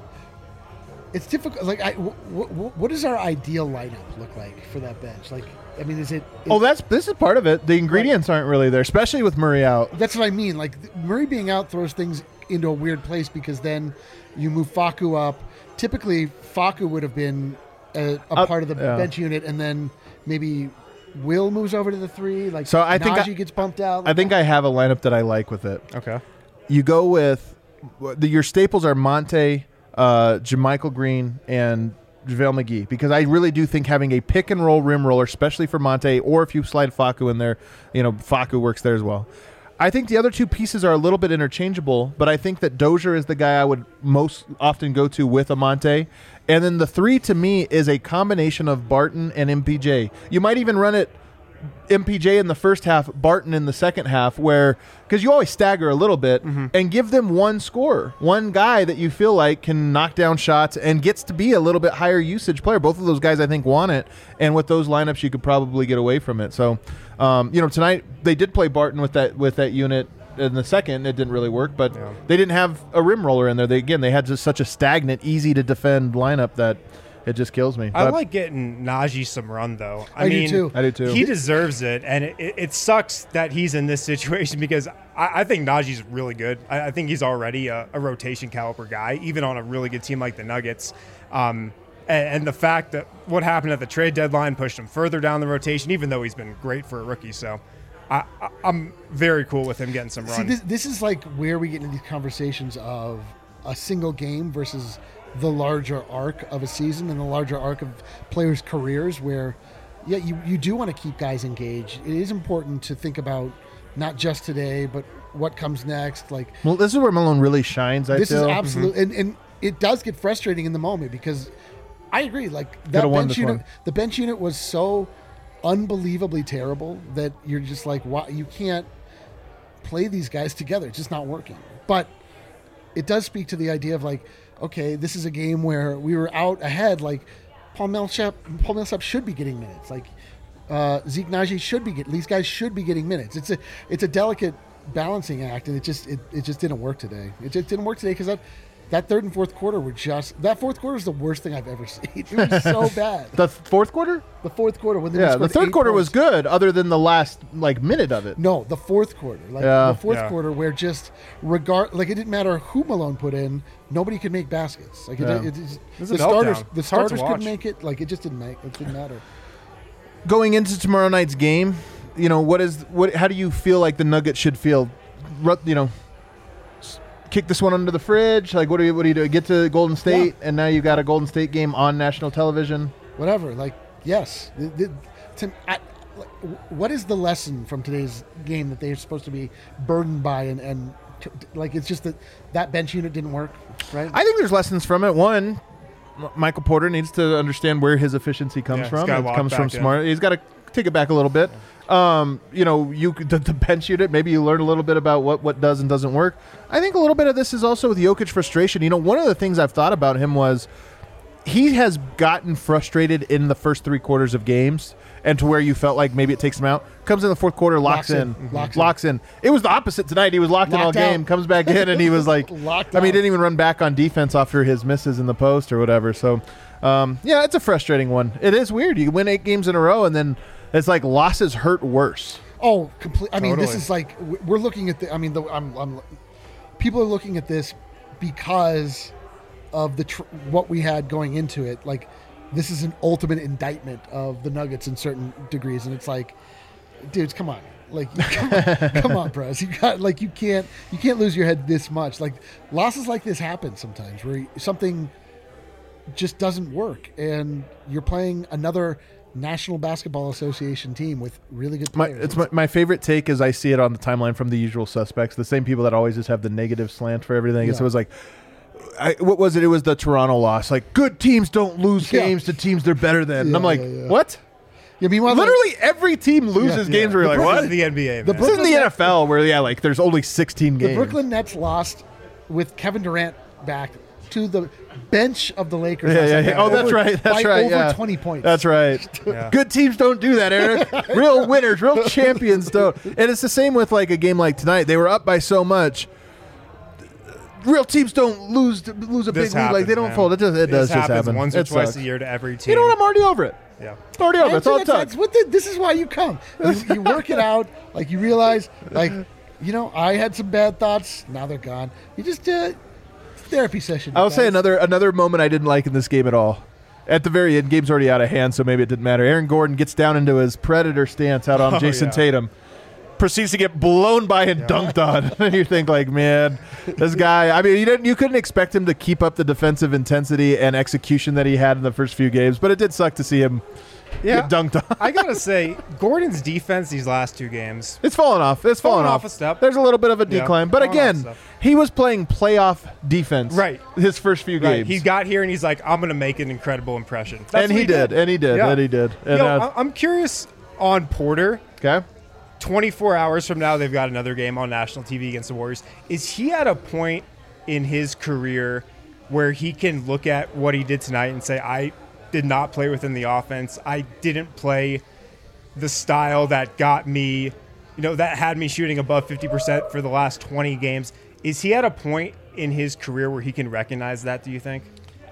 It's difficult. Like, I, w- w- what does our ideal lineup look like for that bench? Like, I mean, is it? Is, Oh, that's this is part of it. The ingredients aren't really there, especially with Murray out. That's what I mean. Like, Murray being out throws things into a weird place because then you move Facu up. Typically, Facu would have been a, a Up- part of the yeah. bench unit, and then maybe Will moves over to the three. Like, So I think Najee I- gets bumped out. I think I have a lineup that I like with it. Okay. You go with the, your staples are Monte, uh, JaMychal Green, and JaVale McGee, because I really do think having a pick and roll rim roller, especially for Monte, or if you slide Facu in there, you know, Facu works there as well. I think the other two pieces are a little bit interchangeable, but I think that Dozier is the guy I would most often go to with a Monte. And then the three to me is a combination of Barton and M P J. You might even run it M P J in the first half, Barton in the second half, where because you always stagger a little bit Mm-hmm. and give them one scorer, one guy that you feel like can knock down shots and gets to be a little bit higher usage player. Both of those guys, I think, want it, and with those lineups, you could probably get away from it. So, um, you know, tonight they did play Barton with that with that unit in the second. It didn't really work, but Yeah. they didn't have a rim roller in there. They again, they had just such a stagnant, easy to defend lineup that it just kills me. I But- like getting Najee some run, though. I, I do mean, too. I do too. He deserves it, and it, it, it sucks that he's in this situation because I, I think Najee's really good. I, I think he's already a, a rotation caliber guy, even on a really good team like the Nuggets. Um, and, and the fact that what happened at the trade deadline pushed him further down the rotation, even though he's been great for a rookie. So I, I, I'm very cool with him getting some See, run. this, this is like where we get into these conversations of a single game versus the larger arc of a season and the larger arc of players' careers where, yeah, you, you do want to keep guys engaged. It is important to think about not just today, but what comes next. Like, Well, this is where Malone really shines, I this feel. is absolute, and, and it does get frustrating in the moment because I agree. Like that Could've won bench this unit, one. the bench unit was so unbelievably terrible that you're just like, wow, you can't play these guys together. It's just not working. But it does speak to the idea of like, okay, this is a game where we were out ahead. Like, Paul Millsap, Paul Millsap should be getting minutes. Like uh, Zeke Naji should be getting. These guys should be getting minutes. It's a it's a delicate balancing act, and it just it, it just didn't work today. It just didn't work today because that that third and fourth quarter were just that fourth quarter is the worst thing I've ever seen. It was so bad. The fourth quarter? The fourth quarter when they Yeah, the third quarter points. was good, other than the last like minute of it. No, the fourth quarter, like Yeah. the fourth Yeah. quarter, where just regard like it didn't matter who Malone put in, nobody could make baskets. Like it, Yeah. it, it, it, was a the starters, meltdown. the It's hard to starters watch. couldn't make it. Like it just didn't make it didn't matter. Going into tomorrow night's game, you know what is what? How do you feel like the Nuggets should feel? Ru- You know, s- kick this one under the fridge. Like what do you what do you do? Get to Golden State, and now you've got a Golden State game on national television. Whatever. Like yes, the, the, to, I, like, what is the lesson from today's game that they're supposed to be burdened by and and t- t- like it's just that that bench unit didn't work, right? I think there's lessons from it. One, M- Michael Porter needs to understand where his efficiency comes Yeah, he's from. gotta It lock comes from back in. smart. He's got to take it back a little bit. Um, you know, you could- the, the bench unit. Maybe you learn a little bit about what what does and doesn't work. I think a little bit of this is also with Jokic frustration. You know, one of the things I've thought about him was he has gotten frustrated in the first three quarters of games, and to where you felt like maybe it takes him out. Comes in the fourth quarter, locks, Locks in, in. Mhm. Locks in. locks in. It was the opposite tonight. He was locked, in all Locked out. game. Comes back in, and he was like, Locked I mean, he out. didn't even run back on defense after his misses in the post or whatever. So, um, yeah, it's a frustrating one. It is weird. You win eight games in a row, and then it's like losses hurt worse. Oh, complete. I mean, this Totally. is like w- we're looking at the. I mean, the, I'm, I'm. People are looking at this because of the tr- what we had going into it. Like, this is an ultimate indictment of the Nuggets in certain degrees, and it's like, dudes, come on, like, come on, come on, bros. You got like you can't you can't lose your head this much. Like losses like this happen sometimes where something just doesn't work, and you're playing another National Basketball Association team with really good My, players. it's my, my favorite take is I see it on the timeline from the usual suspects, the same people that always just have the negative slant for everything. Yeah. So it was like, I, what was it? It was the Toronto loss. Like, good teams don't lose Yeah. games to teams they're better than. and Yeah, I'm like, yeah, yeah. what? Yeah, meanwhile, Literally every team loses Yeah. games where you're like, This what? is the N B A, man. The This isn't the Brooklyn N F L where, yeah, like there's only sixteen the games. Brooklyn Nets lost with Kevin Durant back to the bench of the Lakers. Yeah, last yeah, night yeah. by Oh, that's over- right. That's by right. Over yeah. twenty points. That's right. Yeah. Good teams don't do that, Eric. Real winners, real champions don't. And it's the same with like a game like tonight. They were up by so much. Real teams don't lose lose a This big lead. Like they happens, don't man. fold. It does. It This does just happens happen. once or It twice sucks. a year to every team. You know what? I'm already over it. Yeah. Already over. it. It's all it That's- took. that's what the, this is why you come. You, you work it out. Like you realize, like you know, I had some bad thoughts. Now they're gone. You just uh, therapy session. I'll say guys. another another moment I didn't like in this game at all. At the very end, game's already out of hand, so maybe it didn't matter. Aaron Gordon gets down into his predator stance out on Oh, Jason yeah. Tatum. Proceeds to get blown by and dunked on. And you think like, man, this guy. I mean, you didn't, you couldn't expect him to keep up the defensive intensity and execution that he had in the first few games, but it did suck to see him Yeah. get dunked on. I gotta say, Gordon's defense these last two games. It's fallen off. It's fallen, Fallen off off a step. There's a little bit of a Yeah, decline, but fallen off a again, step. he was playing playoff defense. Right. His first few Right. games. He got here and he's like, I'm gonna make an incredible impression. That's and what he did, and he did, Yeah. and he did. And Yo, uh, I- I'm curious on Porter. okay. twenty-four hours from now, they've got another game on national T V against the Warriors. Is he at a point in his career where he can look at what he did tonight and say, I did not play within the offense. I didn't play the style that got me, you know, that had me shooting above fifty percent for the last twenty games. Is he at a point in his career where he can recognize that, do you think?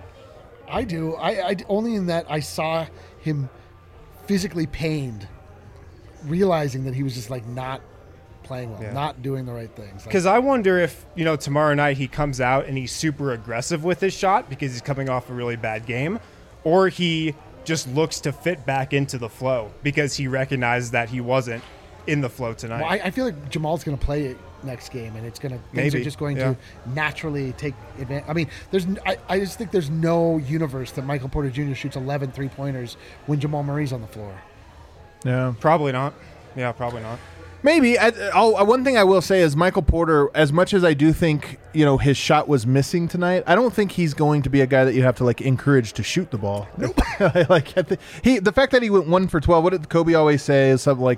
I do. I, I only in that I saw him physically pained, realizing that he was just like not playing well, Yeah. not doing the right things. Like, Because I wonder if, you know, tomorrow night he comes out and he's super aggressive with his shot because he's coming off a really bad game, or he just looks to fit back into the flow because he recognizes that he wasn't in the flow tonight. well, I, I feel like Jamal's going to play it next game, and it's going to things Maybe, are just going yeah. to naturally take advantage. I mean, there's n- I, I just think there's no universe that Michael Porter Junior shoots eleven three-pointers when Jamal Murray's on the floor. Yeah. Probably not. Yeah, probably not. Maybe. I, I'll, one thing I will say is Michael Porter, as much as I do think, you know, his shot was missing tonight, I don't think he's going to be a guy that you have to, like, encourage to shoot the ball. Nope. like, I thi- he, the fact that he went one for twelve, what did Kobe always say is something like,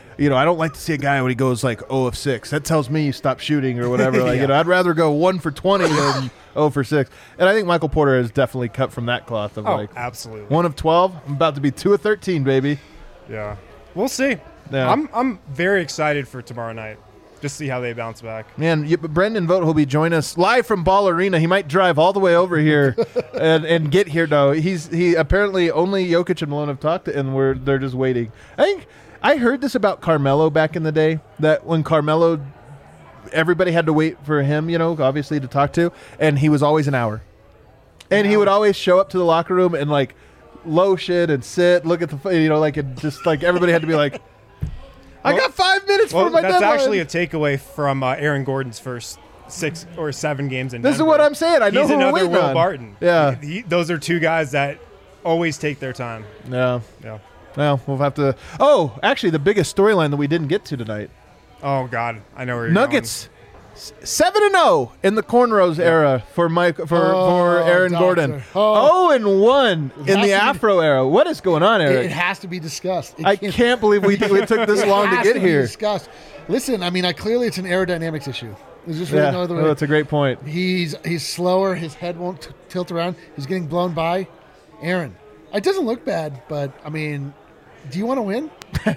you know, I don't like to see a guy when he goes like zero of six. That tells me stop shooting or whatever. Like, Yeah. you know, I'd rather go one for twenty than zero for six. And I think Michael Porter is definitely cut from that cloth of Oh, like absolutely. one of twelve. I'm about to be two of thirteen, baby. Yeah. We'll see. Yeah. I'm I'm very excited for tomorrow night. Just see how they bounce back. Man, you, Brendan Vogt will be joining us live from Ball Arena. He might drive all the way over here and, and get here. No, he's he apparently only Jokic and Malone have talked, to, and we're they're just waiting. I think I heard this about Carmelo back in the day, that when Carmelo, everybody had to wait for him, you know, obviously to talk to, and he was always an hour, and he would always show up to the locker room and like lotion and sit, look at the, you know, like and just like everybody had to be like. I got five minutes Well, for my that's deadline. actually a takeaway from uh, Aaron Gordon's first six or seven games in This is Denver. what I'm saying. I know He's who we're another waiting Will on. Barton. Yeah. He- he- those are two guys that always take their time. Yeah. Yeah. Well, we'll have to. Oh, actually, the biggest storyline that we didn't get to tonight: Oh God, I know where you're Nuggets s- seven and zero in the cornrows era for Mike for Oh, for Aaron doctor. Gordon. Oh. Oh, and one in has to the be- Afro era. What is going on, It, Eric? it has to be discussed. It I can't believe we we took this it long to has get be here. discussed. Listen, I mean, I clearly it's an aerodynamics issue. There's just really Yeah, no other oh, way. that's a great point. He's he's slower. His head won't t- tilt around. He's getting blown by. Aaron, it doesn't look bad, but I mean, do you want to win?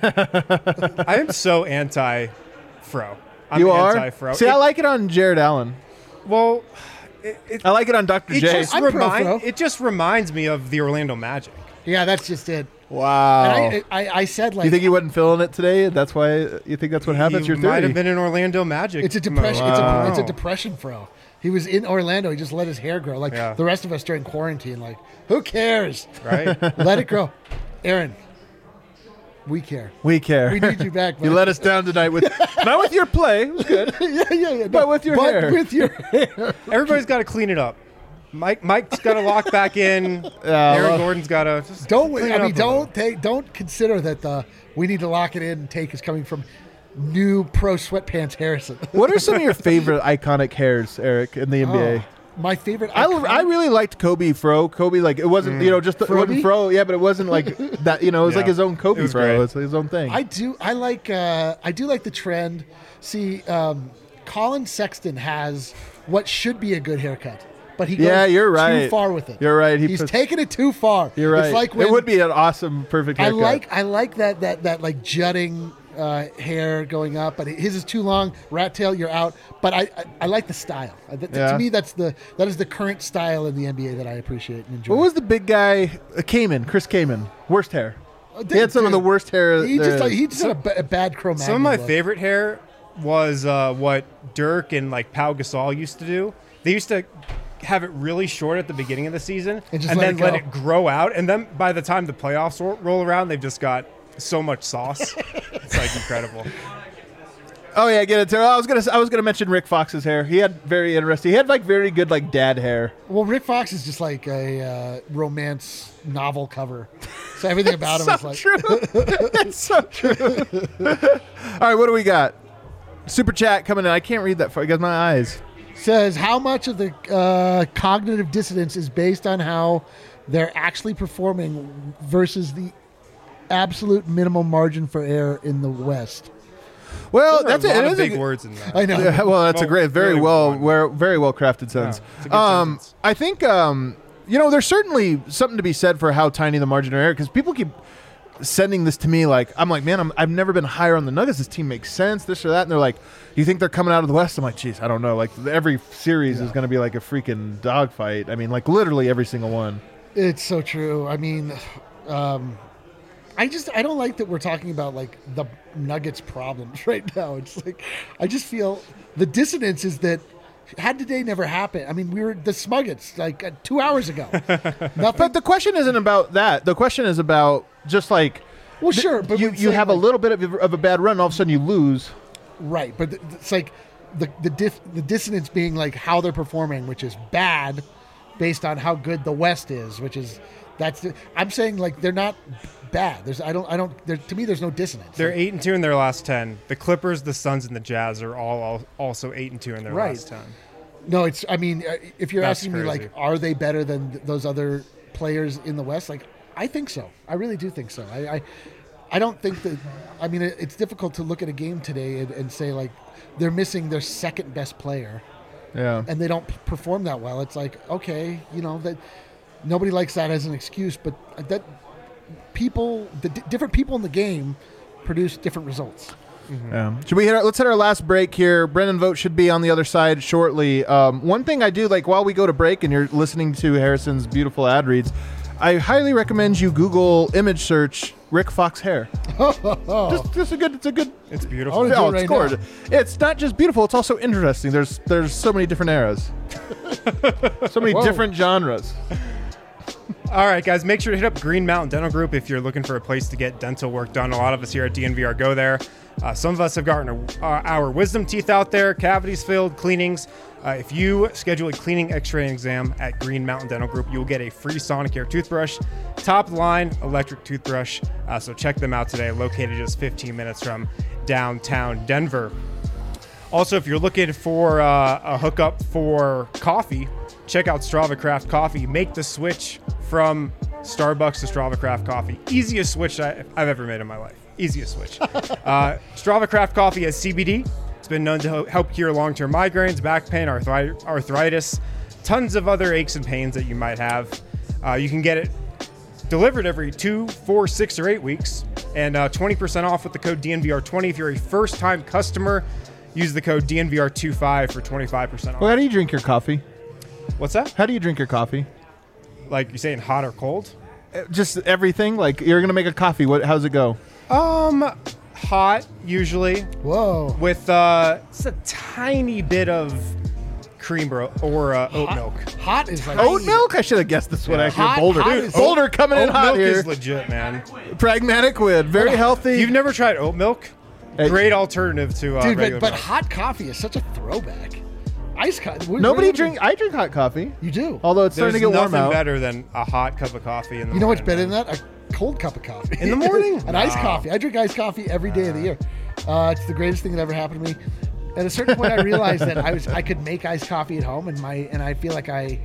I am so anti-Fro. I'm You are. anti-Fro. See, It- I like it on Jared Allen. Well, it, it, I like it on Doctor it J. just I'm pro remind, Fro. it just reminds me of the Orlando Magic. Yeah, that's just it. Wow. And I, I I said like you think he wasn't feeling it today? That's why you think that's what happens. He You're might thirty. have been an Orlando Magic. it's a depression. It's, Wow. a, it's a depression fro. He was in Orlando. He just let his hair grow, like Yeah. the rest of us during quarantine. Like, who cares? right? Let it grow. Aaron, we care. We care. We need you back. You buddy. let us down tonight with not with your play. It was good. yeah, yeah, yeah. But with your but hair. with your hair. Everybody's got to clean it up. Mike, Mike's got to lock back in. Yeah, Aaron well- Gordon's got to just Don't. clean I it mean, up a little. don't take. Don't consider that the we need to lock it in. And take is coming from new pro sweatpants Harrison. What are some of your favorite iconic hairs, Eric, in the N B A? Oh, my favorite. I, iconic- I really liked Kobe Fro. Kobe, like, it wasn't, you know, just, it wasn't Froby? Fro. Yeah, but it wasn't like that, you know, it was Yeah. like his own Kobe It was Fro. great. It's his own thing. I do. I like. Uh, I do like the trend. See, um, Colin Sexton has what should be a good haircut, but he goes Yeah, you're too right. far with it. You're right. He He's puts- taking it too far. You're right. It's like when it would be an awesome, perfect I haircut. like. I like that. That that like jutting uh, hair going up, but his is too long. Rat tail, you're out. But I, I, I like the style. Uh, th- Yeah. To me, that's the that is the current style in the N B A that I appreciate and enjoy. What was the big guy, uh, Kamen, Chris Kamen? Worst hair. He had some of the Dude, worst hair. He just there like, is. he just had a, ba- a bad Cro-Magnon Some of my look. favorite hair was uh, what Dirk and like Pau Gasol used to do. They used to have it really short at the beginning of the season And just let then it let go. it grow out. And then by the time the playoffs ro- roll around, they've just got so much sauce. It's like incredible. Oh yeah, get it. Too. I was gonna. I was gonna mention Rick Fox's hair. He had very interesting. He had like very good like dad hair. Well, Rick Fox is just like a uh, romance novel cover. So everything about him so is like true. It's so true. All right, what do we got? Super chat coming in. I can't read that far because my eyes. says how much of the uh, cognitive dissonance is based on how they're actually performing versus the absolute minimum margin for error in the West. Well, There are that's a it. lot It of is a big good- words in that. I know. Yeah, well, that's a Well, great, very really well, one. where, very well crafted sentence. it's a good um, sentence. I think um, you know, there's certainly something to be said for how tiny the margin of error, because people keep sending this to me like, I'm like, man, I'm, I've never been higher on the Nuggets. This team makes sense, this or that, and they're like, you think they're coming out of the West? I'm like, geez, I don't know. Like every series is going to be like a freaking dogfight. I mean, like literally every single one. It's so true. I mean, um, I just I don't like that we're talking about like the Nuggets problems right now. It's like I just feel the dissonance is that had today never happened. I mean, we were the Smuggets like uh, two hours ago. Nothing. But the question isn't about that. The question is about just like, Well, sure, but you, we're you saying, have a like- little bit of, of a bad run, and all of a sudden you lose. Right, but th- it's like the the diff, the dissonance being like how they're performing, which is bad, based on how good the West is, which is that's. The, I'm saying like they're not bad. There's I don't I don't. There, to me, there's no dissonance. They're eight and two in their last ten. The Clippers, the Suns, and the Jazz are all, all also eight and two in their Right. last ten. No, it's. I mean, uh, if you're That's asking me crazy. like, are they better than th- those other players in the West? Like, I think so. I really do think so. I. I I don't think that. I mean, it, it's difficult to look at a game today and, and say like they're missing their second best player. Yeah. And they don't p- perform that well. It's like, okay, you know, that nobody likes that as an excuse, but that people, the d- different people in the game produce different results. Mm-hmm. Yeah. Should we hit our, let's hit our last break here. Brendan Vogt should be on the other side shortly. Um, one thing I do, like while we go to break and you're listening to Harrison's beautiful ad reads, I highly recommend you Google image search Rick Fox hair. just, just a good, it's a good. It's beautiful. Oh, Oh, it it's right gorgeous. It's not just beautiful; it's also interesting. There's there's so many different eras, so many Whoa. different genres. All right, guys, make sure to hit up Green Mountain Dental Group if you're looking for a place to get dental work done. A lot of us here at D N V R go there. Uh, some of us have gotten a, uh, our wisdom teeth out there, cavities filled, cleanings. Uh, if you schedule a cleaning x-ray exam at Green Mountain Dental Group, you'll get a free Sonicare toothbrush, top line electric toothbrush. Uh, so check them out today, located just fifteen minutes from downtown Denver. Also, if you're looking for uh, a hookup for coffee, check out Strava Craft Coffee. Make the switch from Starbucks to Strava Craft Coffee. Easiest switch I, I've ever made in my life. Easiest switch. uh, Strava Craft Coffee has C B D. It's been known to ho- help cure long-term migraines, back pain, arthri- arthritis, tons of other aches and pains that you might have. Uh, you can get it delivered every two, four, six, or eight weeks, and uh, twenty percent off with the code D N V R twenty. If you're a first-time customer, use the code D N V R twenty-five for twenty-five percent off. Well, how do you drink your coffee? What's that? How do you drink your coffee? Like you're saying hot or cold? Uh, Just everything. Like you're gonna make a coffee. What? How's it go? Um, hot usually Whoa. with uh, just a tiny bit of cream or, or uh, oat Hot- milk. Hot is like Oat milk? I should have guessed this one. Yeah. Actually, Hot- Boulder. hot is- Boulder coming in Oat hot milk here. is legit, man. Pragmatic Wid, very healthy. You've never tried oat milk? Hey. Great alternative to uh, Dude, regular but, but milk. hot coffee is such a throwback. Ice coffee. Nobody drink. I drink hot coffee. You do. Although it's There's starting to get warm nothing out. better than a hot cup of coffee in the You know what's morning, better man. than that? A cold cup of coffee. In the morning? An iced No. coffee. I drink iced coffee every day of the year. Uh, it's the greatest thing that ever happened to me. At a certain point, I realized that I was I could make iced coffee at home, and my and I feel like I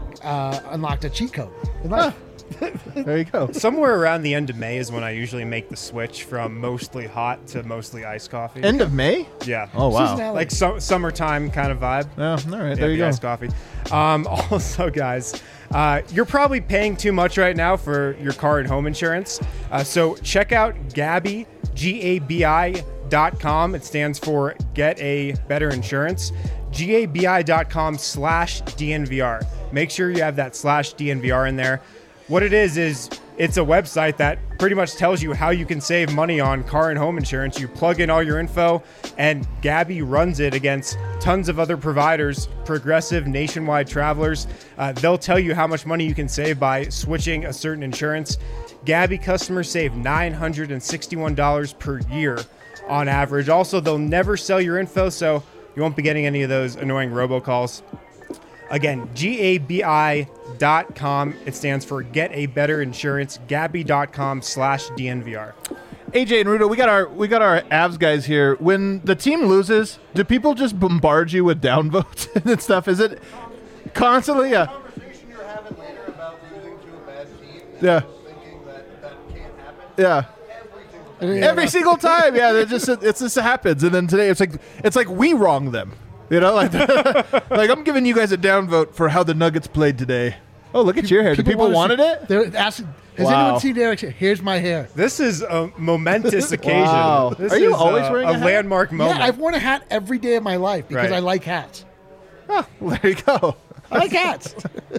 uh, unlocked a cheat code in life. There you go. Somewhere around the end of May is when I usually make the switch from mostly hot to mostly iced coffee. End of May. yeah. Oh wow. Seasonality. Like su- summertime kind of vibe. Yeah. All right. Yeah, There you the go. iced coffee. Um, also, guys, uh, you're probably paying too much right now for your car and home insurance. Uh, so check out Gabi, G A B I dot com. It stands for Get a Better Insurance. G A B I dot com slash D N V R. Make sure you have that slash D N V R in there. What it is, is it's a website that pretty much tells you how you can save money on car and home insurance. You plug in all your info, and Gabi runs it against tons of other providers, Progressive, Nationwide, Travelers. Uh, they'll tell you how much money you can save by switching a certain insurance. Gabi customers save nine hundred sixty-one dollars per year on average. Also, they'll never sell your info, so you won't be getting any of those annoying robocalls. Again, G A B I dot com. It stands for Get a Better Insurance. Gabi dot com slash D N V R. A J and Rudo, we got our we got our Avs guys here. When the team loses, do people just bombard you with downvotes and stuff? Is it constantly? Yeah. Conversation you're having later about losing to a bad team, Yeah. thinking that that can't happen. Yeah. Every single Yeah. Every single time, yeah, it just it just happens. And then today, it's like it's like we wrong them, you know, like like I'm giving you guys a downvote for how the Nuggets played today. Oh, look at your hair. Do people wanna wanted see- it? They're asking, has Wow. anyone seen Derek's hair? Here's my hair. This is a momentous occasion. Wow. This Are you is always a, wearing a a hat? landmark moment? Yeah, I've worn a hat every day of my life because Right. I like hats. Oh, well, there you go. I like hats.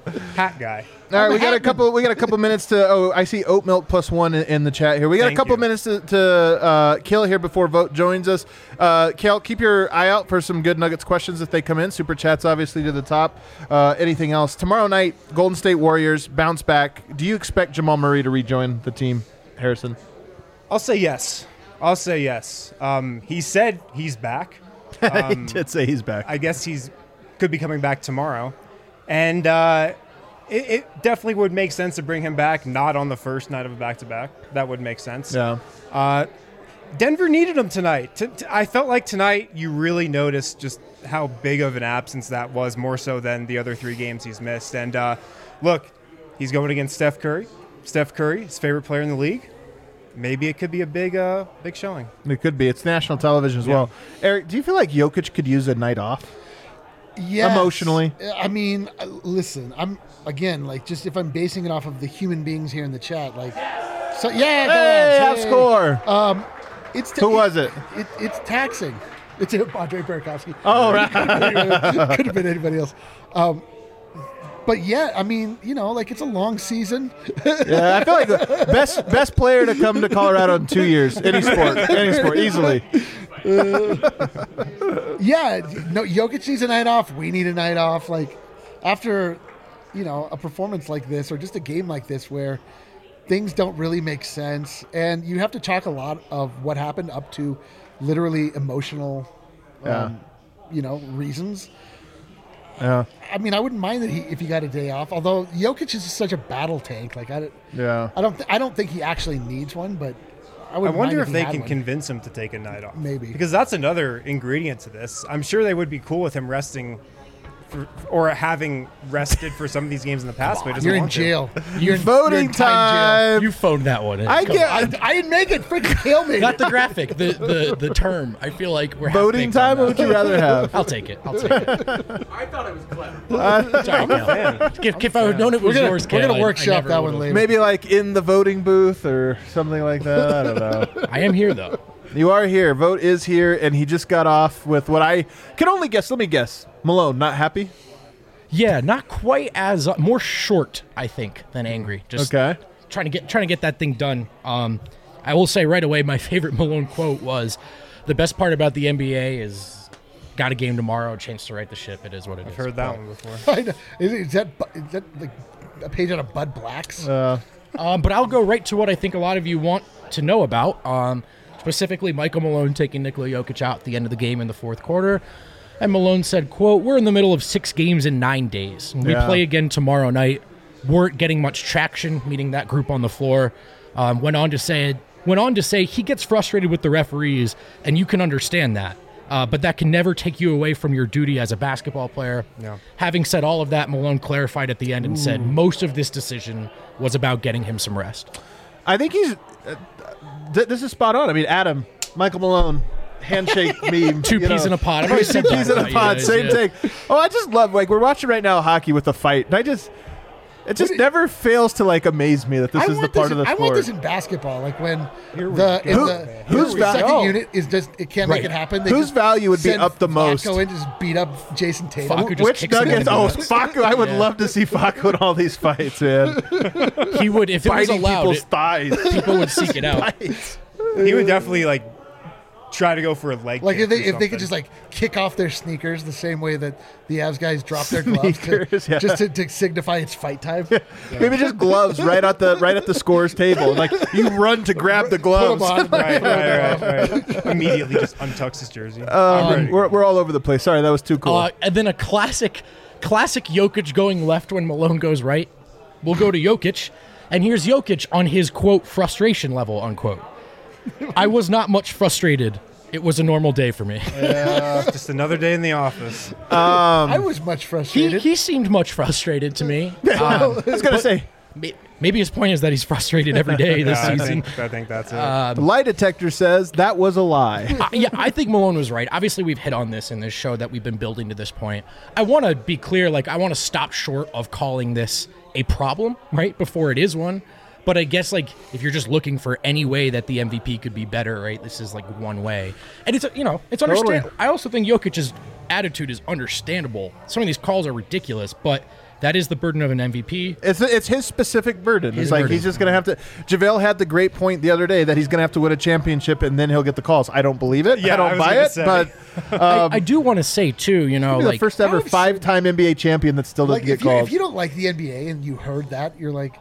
Hat guy. All right, I'm we a got a hat couple. We got a couple minutes to. Oh, I see oat milk plus one in, in the chat here. We got Thank a couple you. minutes to, to uh, kill here before Vote joins us. Uh, Kel, keep your eye out for some good Nuggets questions if they come in. Super chats obviously to the top. Uh, anything else tomorrow night? Golden State Warriors bounce back. Do you expect Jamal Murray to rejoin the team, Harrison? I'll say yes. I'll say yes. Um, he said he's back. he did say he's back. I guess he's could be coming back tomorrow, and uh, it, it definitely would make sense to bring him back. Not on the first night of a back-to-back. That would make sense. yeah. Uh, Denver needed him tonight. T- t- I felt like tonight you really noticed just how big of an absence that was, more so than the other three games he's missed. And uh, look, he's going against Steph Curry. Steph Curry, his favorite player in the league. maybe it could be a big, uh, big showing. It could be. It's national television as Yeah. well. Eric, do you feel like Jokic could use a night off? Yes. Emotionally? I mean, uh, listen, I'm again like just if I'm basing it off of the human beings here in the chat, like, so yeah, go Hey, Avs, half hey. score. Um, it's Who was it? it? It's taxing. It's Andre Burakovsky. Oh, right. Could have been anybody else. Um, but yeah, I mean, you know, like it's a long season. Yeah, I feel like the best best player to come to Colorado in two years, any sport, any sport, easily. Yeah, no, Jokic needs a night off. We need a night off. Like after, you know, a performance like this or just a game like this where things don't really make sense, and you have to chalk a lot of what happened up to literally emotional, Yeah. um, you know, reasons. Yeah, I mean, I wouldn't mind that he if he got a day off. Although Jokic is such a battle tank, like I, don't- yeah. I don't, th- I don't think he actually needs one. But I I would. wonder if he they had can one. convince him to take a night off. Maybe. Because that's another ingredient to this. I'm sure they would be cool with him resting for, or having rested for some of these games in the past, but he doesn't You're in want to. jail. You're in, Voting you're in time time. You phoned that one in. I Come get on. jail. I, I didn't make it. Freaking Kale made Not it. the graphic, the, the the term. I feel like we're Voting half-baked on time. What would that. you rather have? I'll take it. I'll take it. I thought it was clever. Sorry, Kale. If, if I would known it was We're gonna, yours, we're Kale, gonna I- I workshop never that would've. one later. Maybe like in the voting booth or something like that. I don't know. I am here though. You are here. Vote is here, and he just got off with what I can only guess. Let me guess. Malone, not happy. Yeah, not quite as uh, more short, I think, than angry. Just Okay. trying to get trying to get that thing done. Um, I will say right away, my favorite Malone quote was, "The best part about the N B A is got a game tomorrow, chance to right the ship. It is what it I've is." heard that one before. I know. Is, is that Bu- is that like a page out of Bud Black's? Uh, Um, but I'll go right to what I think a lot of you want to know about. Um, specifically, Michael Malone taking Nikola Jokic out at the end of the game in the fourth quarter. And Malone said, quote, "We're in the middle of six games in nine days. We Yeah. play again tomorrow night. Weren't getting much traction, meeting that group on the floor." Um, went on to say, went on to say he gets frustrated with the referees, and you can understand that. Uh, but that can never take you away from your duty as a basketball player. Yeah. Having said all of that, Malone clarified at the end and said most of this decision was about getting him some rest. I think he's. Uh, th- this is spot on. I mean, Adam, Michael Malone, handshake meme. Two you peas know. in a pod. I've already Two said that peas in a about you pod. guys, Same yeah. thing. Oh, I just love like we're watching right now hockey with a fight, and I just. It just never fails to like amaze me that this I is the want part this of in, the I sport. want this in basketball, like when Here we the, go. in Who- the who's the val- second oh. unit is just it can't Right. make it happen. They Whose just value would be send up the most? Flacco in, just beat up Jason Tatum. Facu just Which kicks him Nuggets? into Oh, the- Facu! I would Yeah. love to see Facu in all these fights, man. He would, if it was Biting allowed, people's it, thighs. people would seek it out. He would definitely like try to go for a leg Like kick if they or if they something. could just like kick off their sneakers the same way that the Avs guys drop their gloves to, Sneakers, yeah. just to, to signify it's fight time. Maybe just gloves right at the right at the scores table. Like you run to grab the Put gloves. 'em on. right, right, right, right. Immediately just untucks his jersey. Um, we're, we're all over the place. Sorry, that was too cool. Uh, and then a classic, classic Jokic going left when Malone goes right. We'll go to Jokic, and here's Jokic on his quote frustration level unquote. I was not much frustrated. It was a normal day for me. Just another day in the office. I was much he frustrated. he seemed much frustrated to me. Um, I was gonna say may- maybe his point is that he's frustrated every day this Yeah, I season. think, I think that's it. the lie detector says that was a lie. Uh, yeah, I think Malone was right. Obviously, we've hit on this in this show that we've been building to this point. I want to be clear, like, I want to stop short of calling this a problem, right, before it is one. But I guess, like, if you're just looking for any way that the M V P could be better, right, this is, like, one way. And it's, you know, it's Totally. understandable. I also think Jokic's attitude is understandable. Some of these calls are ridiculous, but that is the burden of an M V P. It's it's his specific burden. His it's like burden. he's just gonna have to. JaVale had the great point the other day that he's gonna have to win a championship and then he'll get the calls. I don't believe it. Yeah, I I don't was buy gonna it. say. But I, I do want to say, too, you know, he's like, the first ever I would say- five-time N B A champion that still doesn't like get if you, calls. if you don't like the N B A and you heard that, you're like,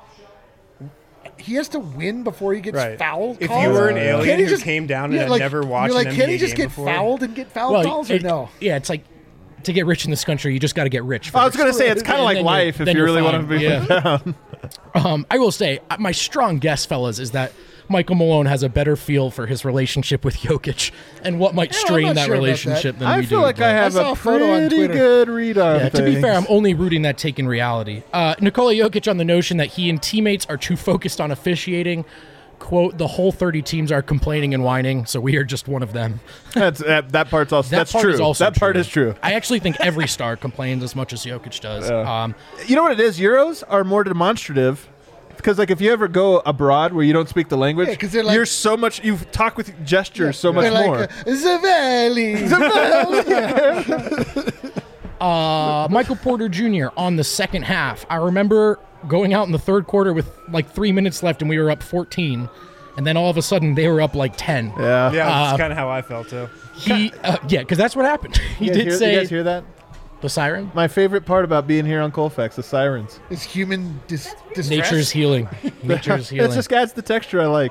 he has to win before he gets Right. fouled. If calls? you were an Can't alien he who just- came down yeah, and had like, never watched you're like, an can N B A he just game get before? fouled and get foul well, calls or it- no? Yeah, it's like, to get rich in this country, you just got to get rich. I was first. gonna say it's kind of And like then you're- life if then you you're really want to fine. be Yeah. down. Um, I will say, uh, my strong guess, fellas, is that Michael Malone has a better feel for his relationship with Jokic and what might Yeah, I'm strain not that sure about relationship that. than I we feel do. like but- I have I saw a a photo on pretty Twitter. good read on Yeah, to be things. fair, I'm only rooting that take in reality. Uh, Nikola Jokic on the notion that he and teammates are too focused on officiating. quote, the whole thirty teams are complaining and whining, so we are just one of them. That's that, that part's also That that's part true. is also that part true. is true. I actually think every star complains as much as Jokic does. Yeah. Um, You know what it is? Euros are more demonstrative. Because like if you ever go abroad where you don't speak the language, Yeah, 'cause they're like- you're so much you talk with gestures so much They're like, more. uh, Zavelli. uh, Michael Porter Junior on the second half. I remember going out in the third quarter with like three minutes left and we were up fourteen. And then all of a sudden they were up like ten. yeah. Yeah, that's Uh, kind of how I felt too. He, uh, yeah, because that's what happened. He You guys did hear, say you guys hear that? the siren. My favorite part about being here on Colfax, the sirens. It's human dis- distress. Nature's healing. Nature's healing. It just adds the texture I like.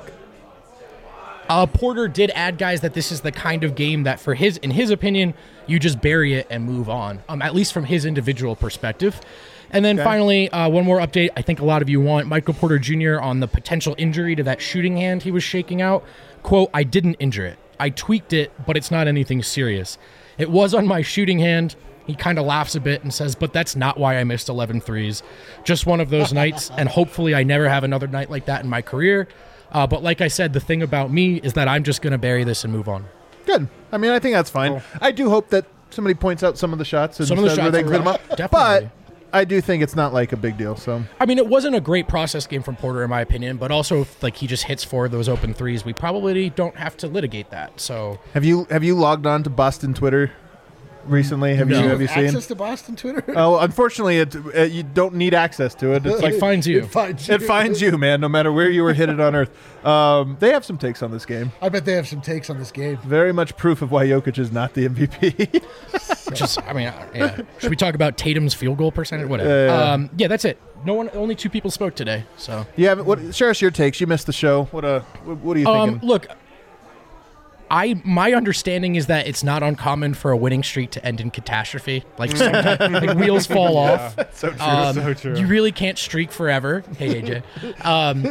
Uh, Porter did add, guys, that this is the kind of game that, for his, in his opinion, you just bury it and move on. Um, at least from his individual perspective. And then Okay. finally, uh, one more update. I think a lot of you want Michael Porter Junior on the potential injury to that shooting hand he was shaking out. Quote: "I didn't injure it. I tweaked it, but it's not anything serious. It was on my shooting hand." He kind of laughs a bit and says, "But that's not why I missed eleven threes. Just one of those nights, and hopefully I never have another night like that in my career. Uh, but like I said, the thing about me is that I'm just going to bury this and move on." Good. I mean, I think that's fine. I do hope that somebody points out some of the shots and Some of the says where shots they are clean them up. definitely. But I do think it's not like a big deal. So I mean, it wasn't a great process game from Porter, in my opinion, but also if like he just hits four of those open threes, we probably don't have to litigate that. So have you have you logged on to Boston Twitter recently? Have No. you have you seen? access to Boston Twitter? Oh, unfortunately, it, uh, you don't need access to it. It's it like finds you. It finds you. it finds you, man. No matter where you were hit it on Earth. Um, they have some takes on this game. I bet they have some takes on this game. Very much proof of why Jokic is not the M V P. Which is, I mean, uh, yeah. Should we talk about Tatum's field goal percentage? Whatever. Yeah, yeah. Um, yeah, that's it. No one, only two people spoke today. So, you haven't. What? Share us your takes. You missed the show. What? Uh, what, what are you um, thinking? look, I my understanding is that it's not uncommon for a winning streak to end in catastrophe. Like, sometimes, like wheels fall off. So true. Um, so true. You really can't streak forever. Hey, A J. Um,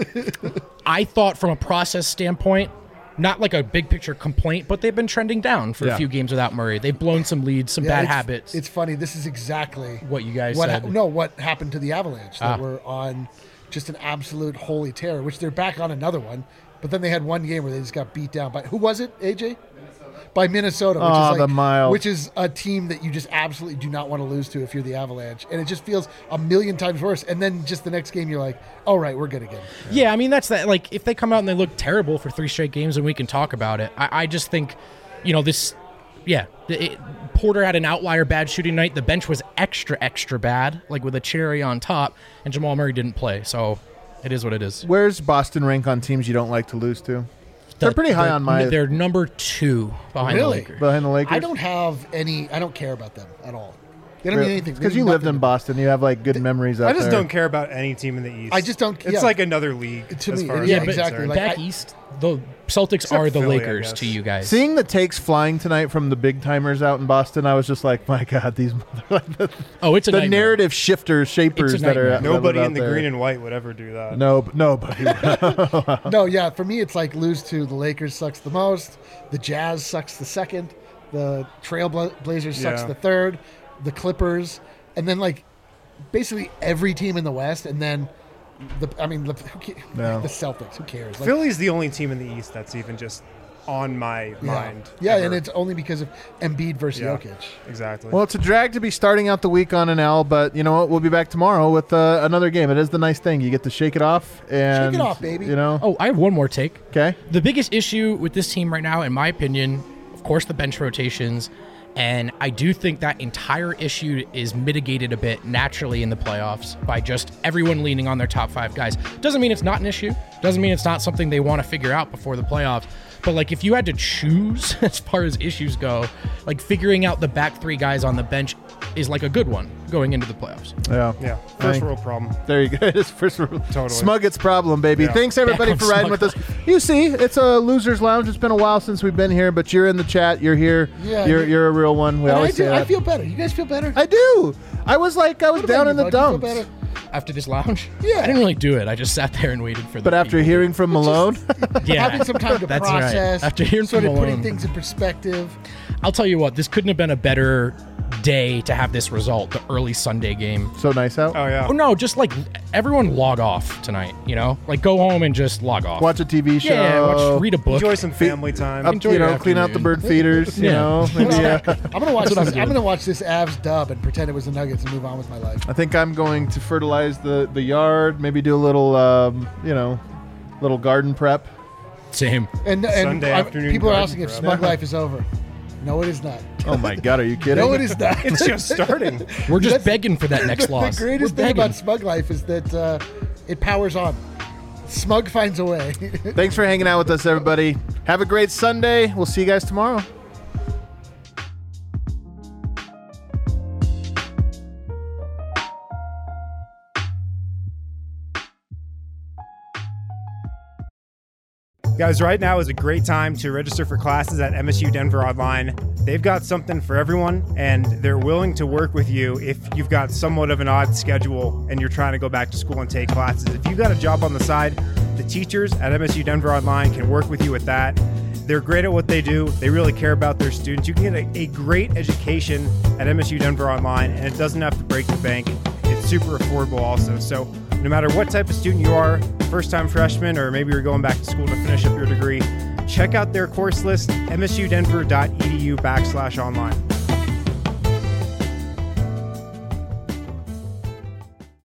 I thought from a process standpoint, not like a big picture complaint, but they've been trending down for Yeah. a few games without Murray. They've blown some leads, some Yeah, bad it's- habits. It's funny. This is exactly what you guys what said. ha- no what happened to the Avalanche. That Ah. were on just an absolute holy terror. Which they're back on another one, but then they had one game where they just got beat down by who was it? A J. By Minnesota, which Oh, is the like, Miles. which is a team that you just absolutely do not want to lose to if you're the Avalanche, and it just feels a million times worse. And then just the next game, you're like, "All right, we're good again." Yeah, I mean that's that. Like if they come out and they look terrible for three straight games, and we can talk about it. I, I just think, you know, this. Yeah, it, Porter had an outlier bad shooting night. The bench was extra extra bad, like with a cherry on top, and Jamal Murray didn't play. So it is what it is. Where's Boston rank on teams you don't like to lose to? They're pretty high on my- They're number two behind Really? the Lakers. Behind the Lakers. I don't have any. I don't care about them at all. They don't mean anything. They Because you mean lived nothing in to me. Boston, you have like good memories out I just there. don't care about any team in the East. I just don't- It's yeah. like another league To as me, far yeah, as Yeah, I'm but exactly. concerned. Like, back I- east, the Celtics Except are the Philly, I Lakers guess. to you guys. Seeing the takes flying tonight from the big timers out in Boston, I was just like, my God, these mother- oh, it's a the nightmare. narrative shifters, shapers It's a that are nightmare. that Nobody live in out the there. green and white would ever do that. No, nobody. No, yeah. For me, it's like lose to the Lakers sucks the most. The Jazz sucks the second. The Trailblazers sucks Yeah. the third. The Clippers, and then like basically every team in the West, and then the. I mean, the, who ca- No. the Celtics. Who cares? Like, Philly's the only team in the East that's even just on my yeah. mind. Yeah, ever. and it's only because of Embiid versus Yeah. Jokic. exactly. Well, it's a drag to be starting out the week on an L, but you know what? We'll be back tomorrow with uh, another game. It is the nice thing. You get to shake it off. and Shake it off, baby. You know? Oh, I have one more take. Okay. The biggest issue with this team right now, in my opinion, of course, the bench rotations. And I do think that entire issue is mitigated a bit naturally in the playoffs by just everyone leaning on their top five guys. Doesn't mean it's not an issue. Doesn't mean it's not something they want to figure out before the playoffs. But like if you had to choose as far as issues go, like figuring out the back three guys on the bench is like a good one going into the playoffs. Yeah. yeah, first Thank- world problem. There you go. It's first totally. Totally. Smuggett's problem, baby. Yeah. Thanks everybody Back for on riding with us. Smugget. You see, it's a losers lounge. It's been a while since we've been here, but you're in the chat. You're here. Yeah, You're you- you're a real one. We And I, always do, say I that. feel better. You guys feel better? I do. I was like I was What about down you, in the bud? You feel dumps. better? after this lounge. Yeah. I didn't really do it. I just sat there and waited for the But after people. hearing from Malone, yeah, Having some time to that's right. process. After hearing sort from of putting Malone. things in perspective. I'll tell you what, this couldn't have been a better day to have this result, the early Sunday game. so nice out. Oh yeah. Oh no, just like everyone log off tonight, you know? Like go home and just log off. Watch a T V show. yeah, watch, read a book. Enjoy some family time. Up, enjoy you your know, clean out the afternoon. bird feeders. You Yeah. know, maybe. Uh, I'm gonna watch That's what this. I'm I'm, doing. gonna watch this Avs dub and pretend it was the Nuggets and move on with my life. I think I'm going to fertilize the the yard. Maybe do a little, um, you know, little garden prep. Same. And and Sunday I- afternoon people are garden asking if prep. Smug Life is over. No, it is not. Oh my God, are you kidding? No, it is not. It's just starting. We're just That's- begging for that next the, loss. The greatest We're thing begging. about Smug Life is that uh, it powers on. Smug finds a way. Thanks for hanging out with us, everybody. Have a great Sunday. We'll see you guys tomorrow. Guys, right now is a great time to register for classes at M S U Denver Online. They've got something for everyone, and they're willing to work with you if you've got somewhat of an odd schedule and you're trying to go back to school and take classes. If you've got a job on the side, the teachers at M S U Denver Online can work with you with that. They're great at what they do. They really care about their students. You can get a, a great education at M S U Denver Online, and it doesn't have to break the bank. It's super affordable also. So no matter what type of student you are, first-time freshman, or maybe you're going back to school to finish up your degree, check out their course list, msudenver.edu backslash online.